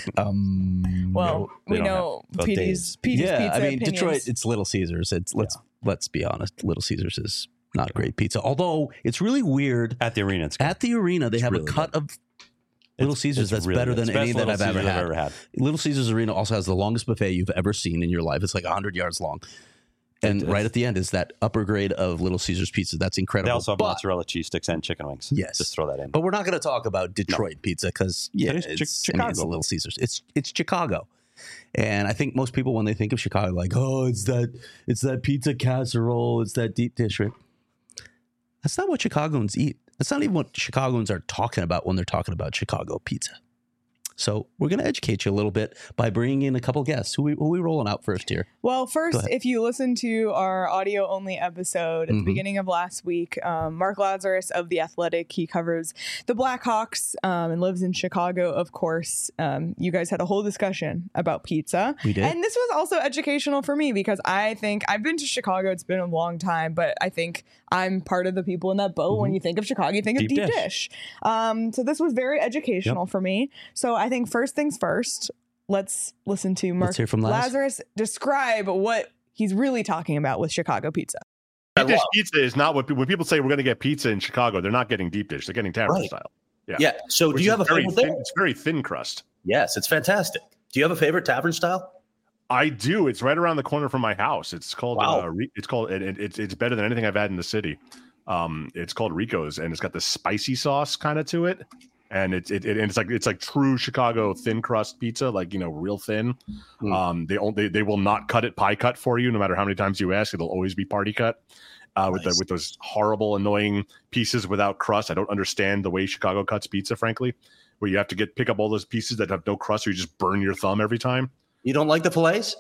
Um, Well, they we don't know have- well, Petey's, Dave's- Petey's yeah, pizza I mean, opinions. Detroit, it's Little Caesars. It's let's let's be honest, Little Caesars is not great pizza. Although it's really weird. At the arena, it's good. At the arena, they It's have really a cut good. of Little It's- Caesars it's that's really better good. than It's any best that Little I've ever Caesars had. I've ever had. Little Caesars Arena also has the longest buffet you've ever seen in your life. It's like one hundred yards long. And It right is. at the end is that upper grade of Little Caesars pizza. That's incredible. They also have but, mozzarella cheese sticks and chicken wings. Yes. Just throw that in. but we're not going to talk about Detroit pizza because yeah, It is it's, Chi- I mean, it's Chicago. Little Caesars. It's it's Chicago. And I think most people when they think of Chicago, like, oh, it's that it's that pizza casserole, it's that deep dish. Right? That's not what Chicagoans eat. That's not even what Chicagoans are talking about when they're talking about Chicago pizza. So we're going to educate you a little bit by bringing in a couple guests. Who we, who we rolling out first here? Well, Go first, ahead. if you listen to our audio only episode at Mhm. the beginning of last week, um, Mark Lazarus of The Athletic, he covers the Blackhawks um, and lives in Chicago, of course. Um, you guys had a whole discussion about pizza. We did. And this was also educational for me because I think I've been to Chicago. It's been a long time, but I think I'm part of the people in that boat. When you think of Chicago, you think Deep of deep dish. dish. Um, so this was very educational for me. So I think first things first, let's listen to Mark Let's hear from Laz. Lazarus describe what he's really talking about with Chicago pizza. Deep dish pizza is not what when people say we're going to get pizza in Chicago. They're not getting deep dish; they're getting tavern Right. style. Yeah. So Which do you is have a very favorite thin, there? It's very thin crust. Yes, it's fantastic. Do you have a favorite tavern style? I do. It's right around the corner from my house. It's called. Wow. Uh, Re- it's called. It, it, it's it's better than anything I've had in the city. Um, it's called Rico's, and it's got this spicy sauce kind of to it, and it's it, it and it's like it's like true Chicago thin crust pizza, like you know, real thin. Mm. Um, they only they, they will not cut it pie cut for you, no matter how many times you ask. It'll always be party cut. Uh, with the, Nice. with those horrible, annoying pieces without crust. I don't understand the way Chicago cuts pizza, frankly, where you have to get pick up all those pieces that have no crust, or you just burn your thumb every time. You don't like the fillets?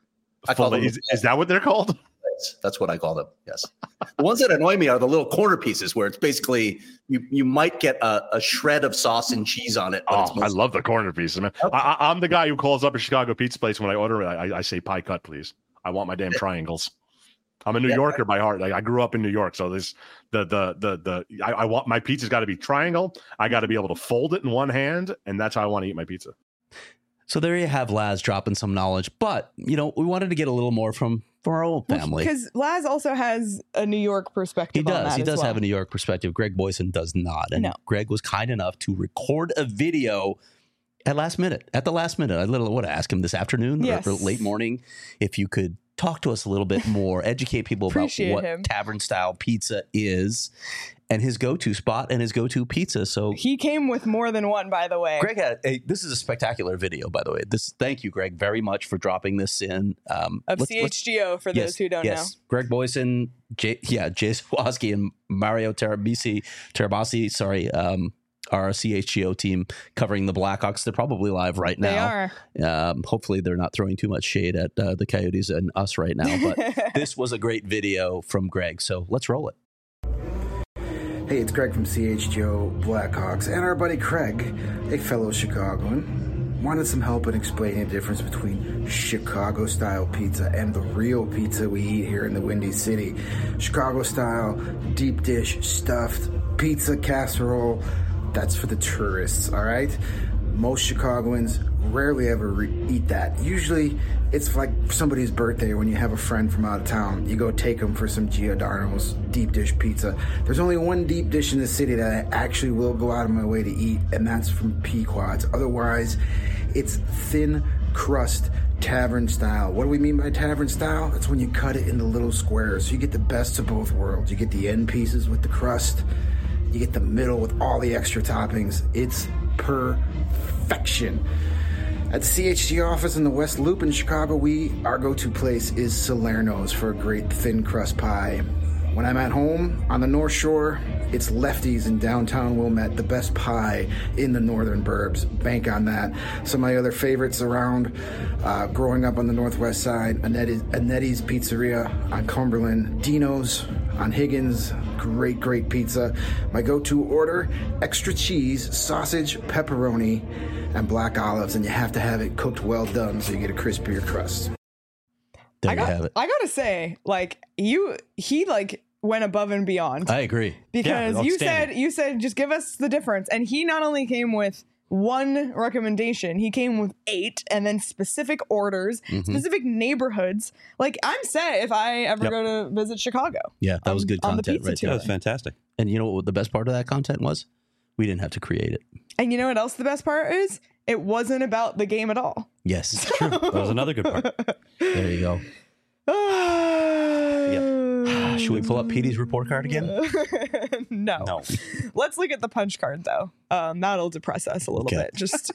I call Fillet- them is, is that what they're called? fillets. That's what I call them. Yes. The ones that annoy me are the little corner pieces where it's basically you you might get a, a shred of sauce and cheese on it. But it's Oh, I mostly- love the corner pieces, man. Okay. I, I, I'm the guy who calls up a Chicago pizza place when I order it. I, I say pie cut, please. I want my damn triangles. I'm a New Yeah. Yorker by heart. Like, I grew up in New York, so this the the the the I, I want my pizza's got to be triangle. I got to be able to fold it in one hand, and that's how I want to eat my pizza. So there you have Laz dropping some knowledge, but you know we wanted to get a little more from from our own family. Because Laz also has a New York perspective He on does. that He as does well. have a New York perspective. Greg Boyson does not, and No. Greg was kind enough to record a video at last minute. At the last minute, I literally would ask him this afternoon Yes. or, or late morning if you could talk to us a little bit more, educate people about Appreciate what him. tavern style pizza is, and his go-to spot and his go-to pizza. So He came with more than one, by the way. Greg had a, this is a spectacular video, by the way. This thank you, Greg, very much for dropping this in. Um, of let's- C let's- H G O, for those who don't yes. Greg Boyson, Jay, yeah, Jay Zawoski and Mario Terabisi, Terabasi, sorry, um, our C H G O team covering the Blackhawks. They're probably live right know. They now. are. Um, hopefully, they're not throwing too much shade at uh, the Coyotes and us right now. But this was a great video from Greg, so let's roll it. Hey, it's Greg from C H G O Blackhawks and our buddy Craig, a fellow Chicagoan, wanted some help in explaining the difference between Chicago-style pizza and the real pizza we eat here in the Windy City. Chicago-style, deep dish, stuffed, pizza casserole, that's for the tourists, all right? Most Chicagoans rarely ever re- eat that. Usually, it's like somebody's birthday when you have a friend from out of town. You go take them for some Giordano's deep dish pizza. There's only one deep dish in the city that I actually will go out of my way to eat, and that's from Pequod's. Otherwise, it's thin crust tavern style. What do we mean by tavern style? That's when you cut it into little squares. So you get the best of both worlds. You get the end pieces with the crust. You get the middle with all the extra toppings. It's perfection. At the C H G office in the West Loop in Chicago, we our go-to place is Salerno's for a great thin crust pie. When I'm at home on the North Shore, it's Lefty's in downtown Wilmette, the best pie in the northern burbs. Bank on that. Some of my other favorites around, uh, growing up on the northwest side, Annetti's, Annetti's Pizzeria on Cumberland, Dino's On Higgins, great, great pizza. My go-to order, extra cheese, sausage, pepperoni, and black olives, and you have to have it cooked well done so you get a crispier crust. There I you got, have it. I gotta say, like you, he like went above and beyond. I agree. Because Yeah, you outstanding. said you said just give us the difference, and he not only came with one recommendation, he came with eight, and then specific orders, Mhm. specific neighborhoods. Like I'm set if I ever Yep. go to visit Chicago. Yeah, that was on- good on the content pizza right tour. That there. was fantastic. And you know what the best part of that content was? We didn't have to create it. And you know what else the best part is? It wasn't about the game at all. Yes. True. That was another good part. There you go. yeah. Should we pull up Petey's report card again? no. No. Let's look at the punch card though. Um, that'll depress us a little Okay. bit. Just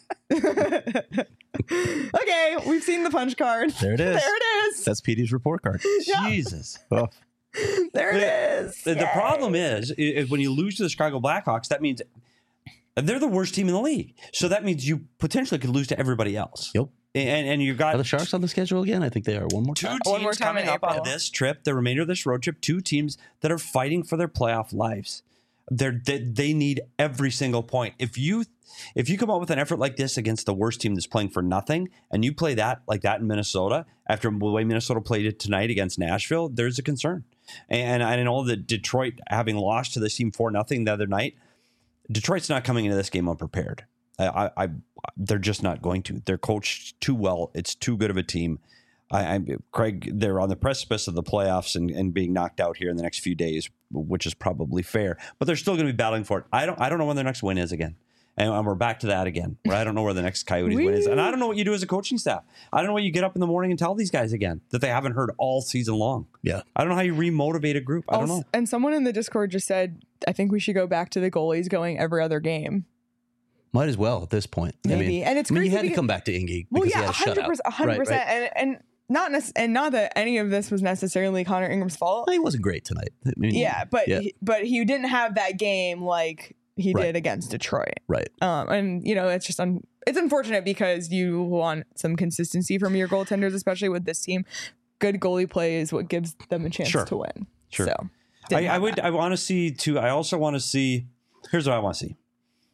okay. We've seen the punch card. There it is. There it is. That's Petey's report card. Yeah. Jesus. Oh, There it is. The, the Yay. problem is, is when you lose to the Chicago Blackhawks, that means they're the worst team in the league. So that means you potentially could lose to everybody else. Yep. And and you've got Are the Sharks on the schedule again? I think they are. One more two time. teams One more time coming in up on April. this trip, the remainder of this road trip, two teams that are fighting for their playoff lives. They're, they they need every single point. If you if you come out with an effort like this against the worst team that's playing for nothing, and you play that like that in Minnesota after the way Minnesota played it tonight against Nashville, there's a concern. And I know that Detroit, having lost to this team for nothing the other night, Detroit's not coming into this game unprepared. I, I, I they're just not going to. They're coached too well. It's too good of a team. I, I Craig, they're on the precipice of the playoffs and, and being knocked out here in the next few days, which is probably fair. But they're still going to be battling for it. I don't. I don't know when their next win is again. And, and we're back to that again. Where I don't know where the next Coyotes win is, and I don't know what you do as a coaching staff. I don't know what you get up in the morning and tell these guys again that they haven't heard all season long. Yeah. I don't know how you remotivate a group. I don't Also- know. And someone in the Discord just said, I think we should go back to the goalies going every other game. Might as well at this point. I Maybe. mean, and it's I mean, crazy you had to because- come back to Ingy Well, because yeah, he had a hundred shutout. percent, hundred Right, right. percent, and and not nec- and not that any of this was necessarily Connor Ingram's fault. He wasn't great tonight. I mean, Yeah, but yeah. He, but he didn't have that game like he Right. did against Detroit. Right. Um, and you know it's just un- it's unfortunate because you want some consistency from your goaltenders, especially with this team. Good goalie play is what gives them a chance Sure. to win. Sure. So I, didn't I have would. that. I want to see too. I also want to see. Here's what I want to see.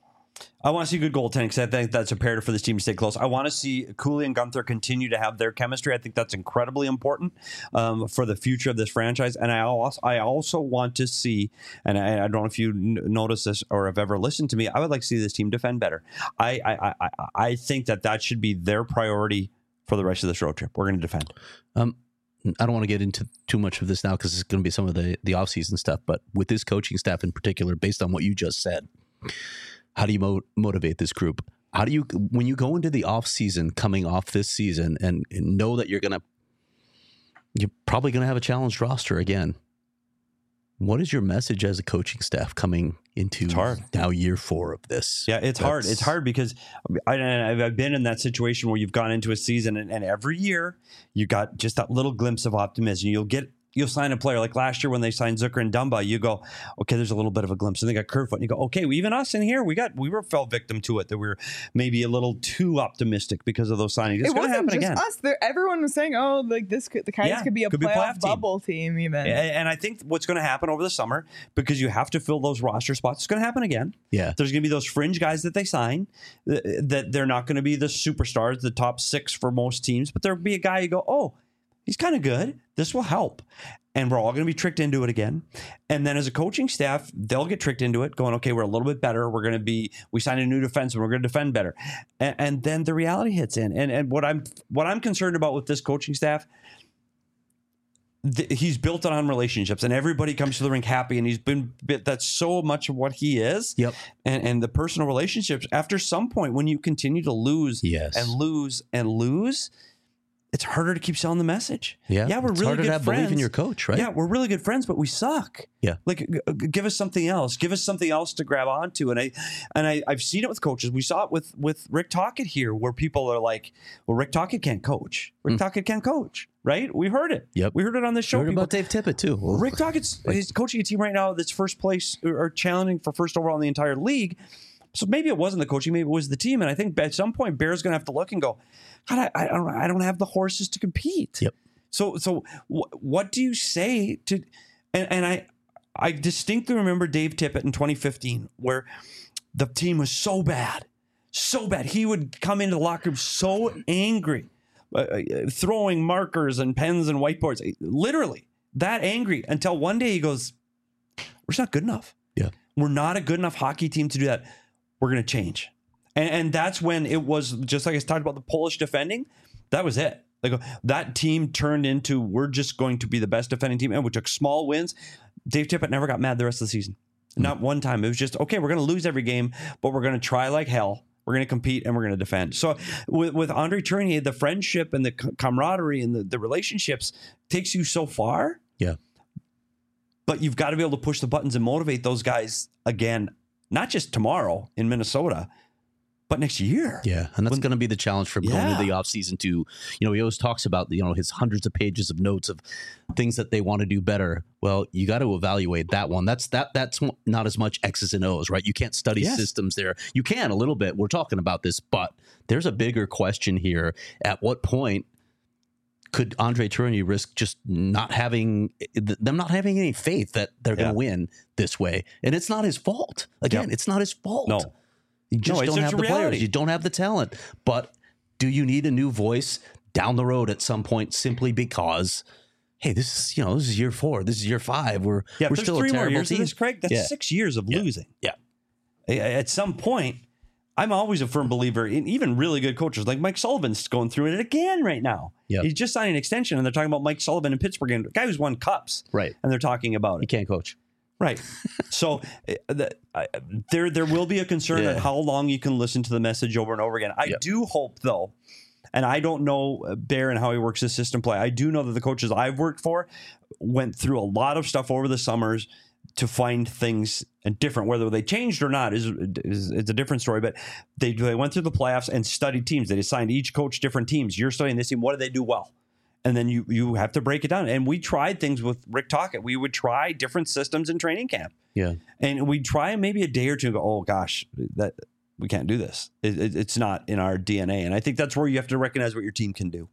I want to see good goaltending because I think that's imperative for this team to stay close. I want to see Cooley and Gunther continue to have their chemistry. I think that's incredibly important um, for the future of this franchise. And I also, I also want to see, and I, I don't know if you n- notice this or have ever listened to me, I would like to see this team defend better. I, I, I, I think that that should be their priority for the rest of this road trip. We're going to defend. Um, I don't want to get into too much of this now because it's going to be some of the the offseason stuff. But with this coaching staff in particular, based on what you just said, how do you mo- motivate this group? How do you, when you go into the offseason coming off this season and, and know that you're going to, you're probably going to have a challenged roster again? What is your message as a coaching staff coming into It's hard. now year four of this? Yeah, it's hard. That's- It's hard because I, I- I've been in that situation where you've gone into a season and, and every year you got just that little glimpse of optimism. You'll get you'll sign a player like last year when they signed Zucker and Dumba. You go, okay, there's a little bit of a glimpse, and they got Kerfoot. And you go, okay, well, even us in here, we got we were fell victim to it that we were maybe a little too optimistic because of those signings. It's it going to wasn't happen just again. us. There, everyone was saying, "Oh, like this could the Coyotes Yeah, could be a could be a playoff, playoff team. bubble team." Even A- And I think what's going to happen over the summer, because you have to fill those roster spots, it's going to happen again. Yeah. There's going to be those fringe guys that they sign th- that they're not going to be the superstars, the top six for most teams, but there'll be a guy you go, oh, he's kind of good. This will help. And we're all going to be tricked into it again. And then as a coaching staff, they'll get tricked into it going, okay, we're a little bit better. We're going to be, we signed a new defenseman. We're going to defend better. And, and then the reality hits in. And, and what I'm, what I'm concerned about with this coaching staff, th- he's built it on relationships and everybody comes to the rink happy. And he's been, that's so much of what he is. Yep. And, and the personal relationships, after some point, when you continue to lose Yes. and lose and lose, it's harder to keep selling the message. Yeah. Yeah, we're It's really harder good to have friends. belief in your coach, right? Yeah, we're really good friends, but we suck. Yeah. Like, g- g- give us something else. Give us something else to grab onto. And I, and I, I've seen it with coaches. We saw it with with Rick Tocchet here, where people are like, "Well, Rick Tocchet can't coach. Rick Tocchet can't coach." Right? We heard it. Yep. We heard it on this show. Heard People- about Dave Tippett too. Well, Rick Tocchet's he's coaching a team right now that's first place or or challenging for first overall in the entire league. So maybe it wasn't the coaching, maybe it was the team. And I think at some point, Bear's going to have to look and go, God, I, I don't, I don't have the horses to compete. Yep. So, so wh- what do you say to? And, and I, I distinctly remember Dave Tippett in twenty fifteen, where the team was so bad, so bad. He would come into the locker room so angry, uh, throwing markers and pens and whiteboards, literally that angry, until one day he goes, we're just not good enough. Yeah. We're not a good enough hockey team to do that. We're going to change. And, and that's when it was, just like I talked about the Polish defending, that was it. Like that team turned into, we're just going to be the best defending team. And we took small wins. Dave Tippett never got mad the rest of the season. Not one time. It was just, okay, we're going to lose every game, but we're going to try like hell. We're going to compete and we're going to defend. So with, with Andre Tourigny, the friendship and the camaraderie and the, the relationships takes you so far. Yeah. But you've got to be able to push the buttons and motivate those guys again, not just tomorrow in Minnesota, but next year. Yeah. And that's When- going to be the challenge for him going Yeah. into the offseason to, you know, he always talks about, you know, his hundreds of pages of notes of things that they want to do better. Well, you got to evaluate that one. That's that. That's not as much X's and O's, right? You can't study Yes. systems there. You can a little bit. We're talking about this, but there's a bigger question here. At what point could Andre Tourigny risk just not having them not having any faith that they're going Yeah. to win this way? And it's not his fault. Again, Yep. it's not his fault. No. You just No, it's don't just have the reality. players. You don't have the talent. But do you need a new voice down the road at some point simply because, hey, this is, you know, this is year four. This is year five. We're, Yeah, we're if there's still three a more terrible years team. of this, Craig. That's Yeah. six years of Yeah. losing. Yeah. A- At some point, I'm always a firm believer in even really good coaches like Mike Sullivan's going through it again right now. Yeah. He's just signed an extension, and they're talking about Mike Sullivan in Pittsburgh, and a guy who's won cups, Right. and they're talking about You it. can't coach. Right. So uh, the, I, there there will be a concern Yeah. at how long you can listen to the message over and over again. I Yep. do hope, though, and I don't know uh, Bear and how he works his system play. I do know that the coaches I've worked for went through a lot of stuff over the summers to find things different. Whether they changed or not is, is, is a different story. But they they went through the playoffs and studied teams. They assigned each coach different teams. You're studying this team. What do they do well? And then you you have to break it down. And we tried things with Rick Tocchet. We would try different systems in training camp. Yeah. And we'd try maybe a day or two and go, oh, gosh, that we can't do this. It, it, it's not in our D N A. And I think that's where you have to recognize what your team can do.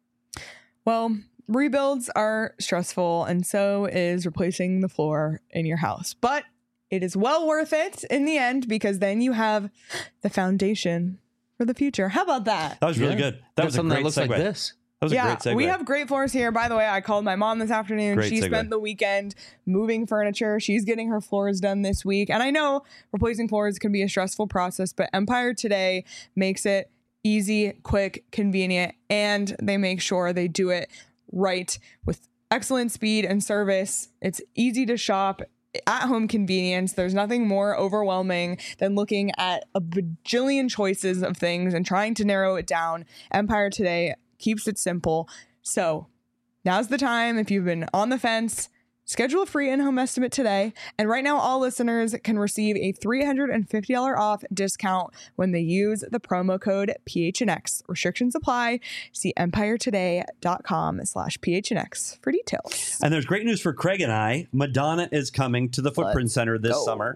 Well, rebuilds are stressful, and so is replacing the floor in your house. But it is well worth it in the end, because then you have the foundation for the future. How about that? That was really Yeah. good. That Got was a something great that looks segue. like this. That was a yeah, great segue. we have great floors here. By the way, I called my mom this afternoon. Great she segue. spent the weekend moving furniture. She's getting her floors done this week. And I know replacing floors can be a stressful process, but Empire Today makes it easy, quick, convenient, and they make sure they do it right with excellent speed and service. It's easy to shop. At-home convenience. There's nothing more overwhelming than looking at a bajillion choices of things and trying to narrow it down. Empire Today keeps it simple. So now's the time. If you've been on the fence, schedule a free in-home estimate today. And right now, all listeners can receive a three hundred fifty dollars off discount when they use the promo code P H N X. Restrictions apply. See empiretoday.com slash PHNX for details. And there's great news for Craig and I. Madonna is coming to the Footprint Let's Center this go. summer.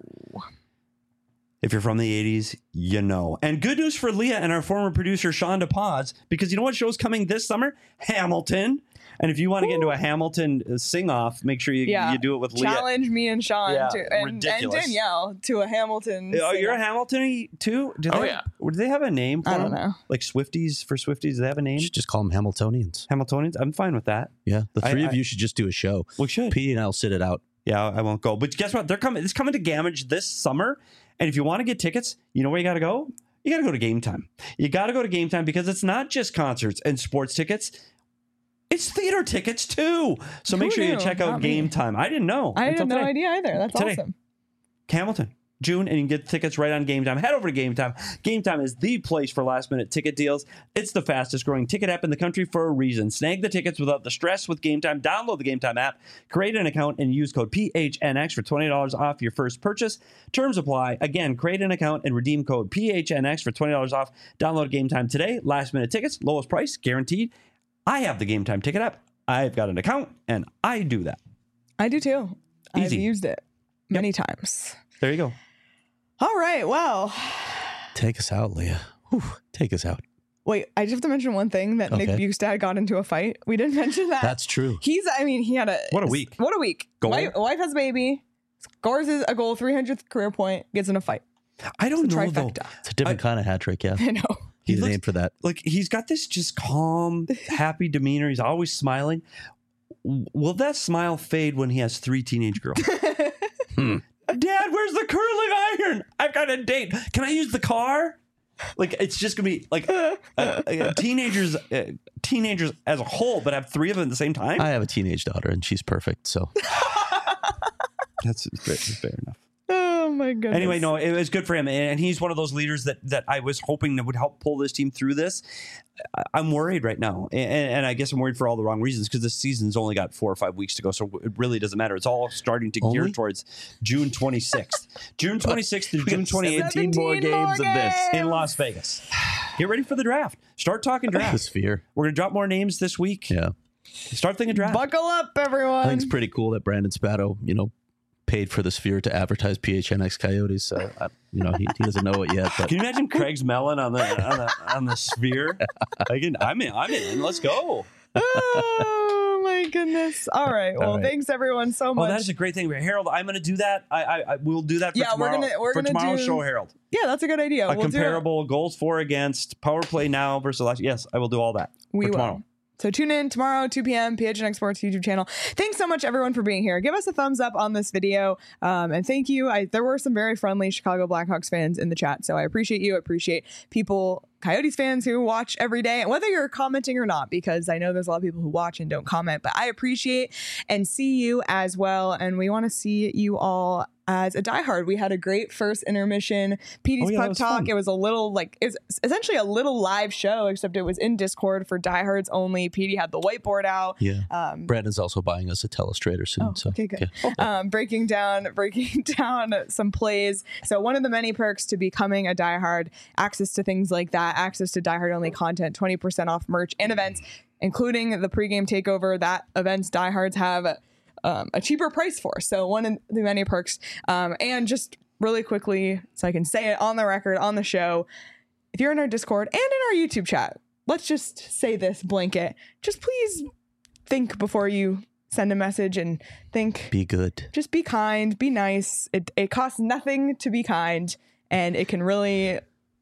If you're from the eighties, you know. And good news for Leah and our former producer, Shonda Paz, because you know what show's coming this summer? Hamilton. And if you want to get into a Hamilton uh, sing-off, make sure you, Yeah. you do it with Leah. Challenge me and Sean Yeah, to, and, and ridiculous. Danielle to a Hamilton. Oh, you're a sing-off. Hamilton too? Do Oh, they, yeah. Do they have a name for I don't them? know. Like Swifties for Swifties? Do they have a name? You should just call them Hamiltonians. Hamiltonians? I'm fine with that. Yeah. The I- three I- of you should just do a show. We should. P and I'll sit it out. Yeah, I won't go. But guess what? They're coming. It's coming to Gamage this summer. And if you want to get tickets, you know where you got to go? You got to go to Game Time. You got to go to Game Time because it's not just concerts and sports tickets. It's theater tickets too. So make Who sure you knew? check out Not me. Game Time. I didn't know. I until had no today. idea either. That's Today. awesome. Hamilton, June, and you can get tickets right on Game Time. Head over to Game Time. Game Time is the place for last minute ticket deals. It's the fastest growing ticket app in the country for a reason. Snag the tickets without the stress with Game Time. Download the Game Time app, create an account, and use code P H N X for twenty dollars off your first purchase. Terms apply. Again, create an account and redeem code P H N X for twenty dollars off. Download Game Time today. Last minute tickets, lowest price, guaranteed. I have the Game Time ticket app. I've got an account, and I do that. I do too. I've Easy. used it many times. There you go. All right. Well, Take us out, Leah. Whew, take us out. wait, I just have to mention one thing that Nick Okay. Bukestad got into a fight. We didn't mention that. That's true. He's, I mean, he had a. What a week. What a week. Goal. Wife, wife has a baby. scores a goal, three hundredth career point, gets in a fight. I don't It's a know though. trifecta. It's a different I- kind of hat trick, yeah. I know. He He's a looks- name for that. Like he's got this just calm, happy demeanor. He's always smiling. W- Will that smile fade when he has three teenage girls? Hmm. Dad, where's the curling iron? I've got a date. Can I use the car? Like it's just gonna be like uh, uh, teenagers, uh, teenagers as a whole, but have three of them at the same time. I have a teenage daughter and she's perfect. So That's fair, fair enough. Oh my goodness. Anyway, no, it was good for him, and he's one of those leaders that that I was hoping that would help pull this team through this. I- I'm worried right now, and, and I guess I'm worried for all the wrong reasons because this season's only got four or five weeks to go, so it really doesn't matter. It's all starting to gear Only? towards June twenty-sixth, June twenty-sixth through June twenty-eighth seventeen more games of this. in Las Vegas. Get ready for the draft. Start talking the draft. sphere. We're gonna drop more names this week. Yeah. Start thinking draft. Buckle up, everyone. I think it's pretty cool that Brandon Spatto, you know, paid for the sphere to advertise P H N X Coyotes. So, I, you know, he, he doesn't know it yet. But Can you imagine Craig's melon on the on the, on the sphere? I can, I'm in. I'm in. Let's go. Oh my goodness. All right. Well, All right. thanks everyone so Oh, much. that is a great thing, Harold. I'm going to do that. I, I, I will do that. For Yeah, we're tomorrow, gonna- we're for gonna tomorrow's do- show, Harold. yeah, that's a good idea. A We'll do it. comparable goals for against power play now versus last. Yes, I will do all that. We for will. tomorrow. So tune in tomorrow, two p.m., P H N X Sports YouTube channel. Thanks so much, everyone, for being here. Give us a thumbs up on this video. Um, and thank you. I, there were some very friendly Chicago Blackhawks fans in the chat. So I appreciate you. I appreciate people, Coyotes fans who watch every day, and whether you're commenting or not, because I know there's a lot of people who watch and don't comment, but I appreciate and see you as well. And we want to see you all as a diehard. We had a great first intermission P D's Oh, yeah, that Puck was Talk. fun. It was a little like, it was essentially a little live show, except it was in Discord for diehards only. P D had the whiteboard out. yeah, Um, Brandon's also buying us a Telestrator soon. Oh, so okay, good. yeah. um, breaking down, breaking down some plays. So one of the many perks to becoming a diehard, access to things like that, access to diehard only content, twenty percent off merch and events, including the pregame takeover. That events diehards have um, a cheaper price for. So one of the many perks. Um, and just really quickly, so I can say it on the record, on the show, if you're in our Discord and in our YouTube chat, let's just say this blanket. Just please think before you send a message and think. Be good. Just be kind, be nice. It it costs nothing to be kind, and it can really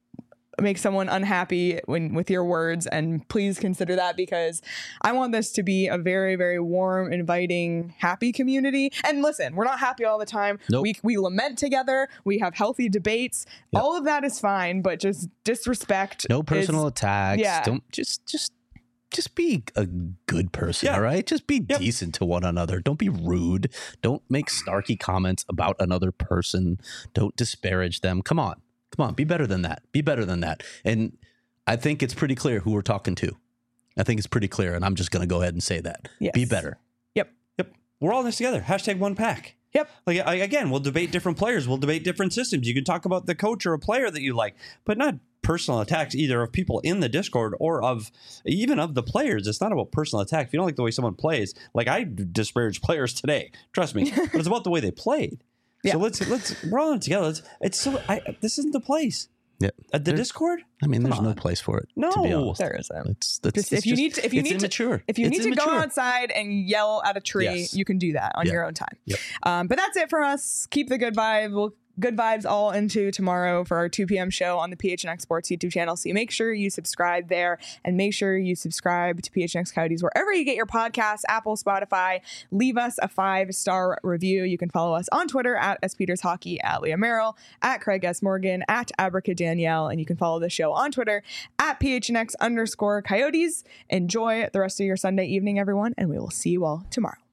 make someone unhappy when with your words. And please consider that, because I want this to be a very, very warm, inviting, happy community. And listen, we're not happy all the time. Nope. We we lament together. We have healthy debates. Yep. All of that is fine, but just disrespect. No personal is- attacks. yeah. Don't just just just be a good person, Yeah. all right? Just be Yep. decent to one another. Don't be rude. Don't make snarky comments about another person. Don't disparage them. Come on. Come on. Be better than that. Be better than that. And I think it's pretty clear who we're talking to. I think it's pretty clear, and I'm just going to go ahead and say that. Yes. Be better. Yep. Yep. We're all in this together. Hashtag one pack. Yep. Like I, again, we'll debate different players. We'll debate different systems. You can talk about the coach or a player that you like, but not personal attacks either of people in the Discord or of even of the players. It's not about personal attack. If you don't like the way someone plays, like I disparaged players today, trust me, but it's about the way they played. Yeah. So let's let's we're all in it together. Let's, it's so I, this isn't the place. Yeah. At the There- Discord? I mean, Come there's no on. place for it. No, to be honest. There isn't. It's, that's, Just, it's if you just- need to, if you it's need immature. to, if you It's need to go immature. outside and yell at a tree, Yes. you can do that on Yeah. your own time. Yep. Um, but that's it for us. Keep the good vibe. We'll good vibes all into tomorrow for our two p.m. show on the P H N X Sports YouTube channel. So you make sure you subscribe there, and make sure you subscribe to P H N X Coyotes wherever you get your podcasts, Apple, Spotify. Leave us a five-star review. You can follow us on Twitter at S Peters Hockey, at Leah Merrill, at Craig S. Morgan, at Abrica Danielle, and you can follow the show on Twitter at P H N X underscore Coyotes. Enjoy the rest of your Sunday evening, everyone, and we will see you all tomorrow.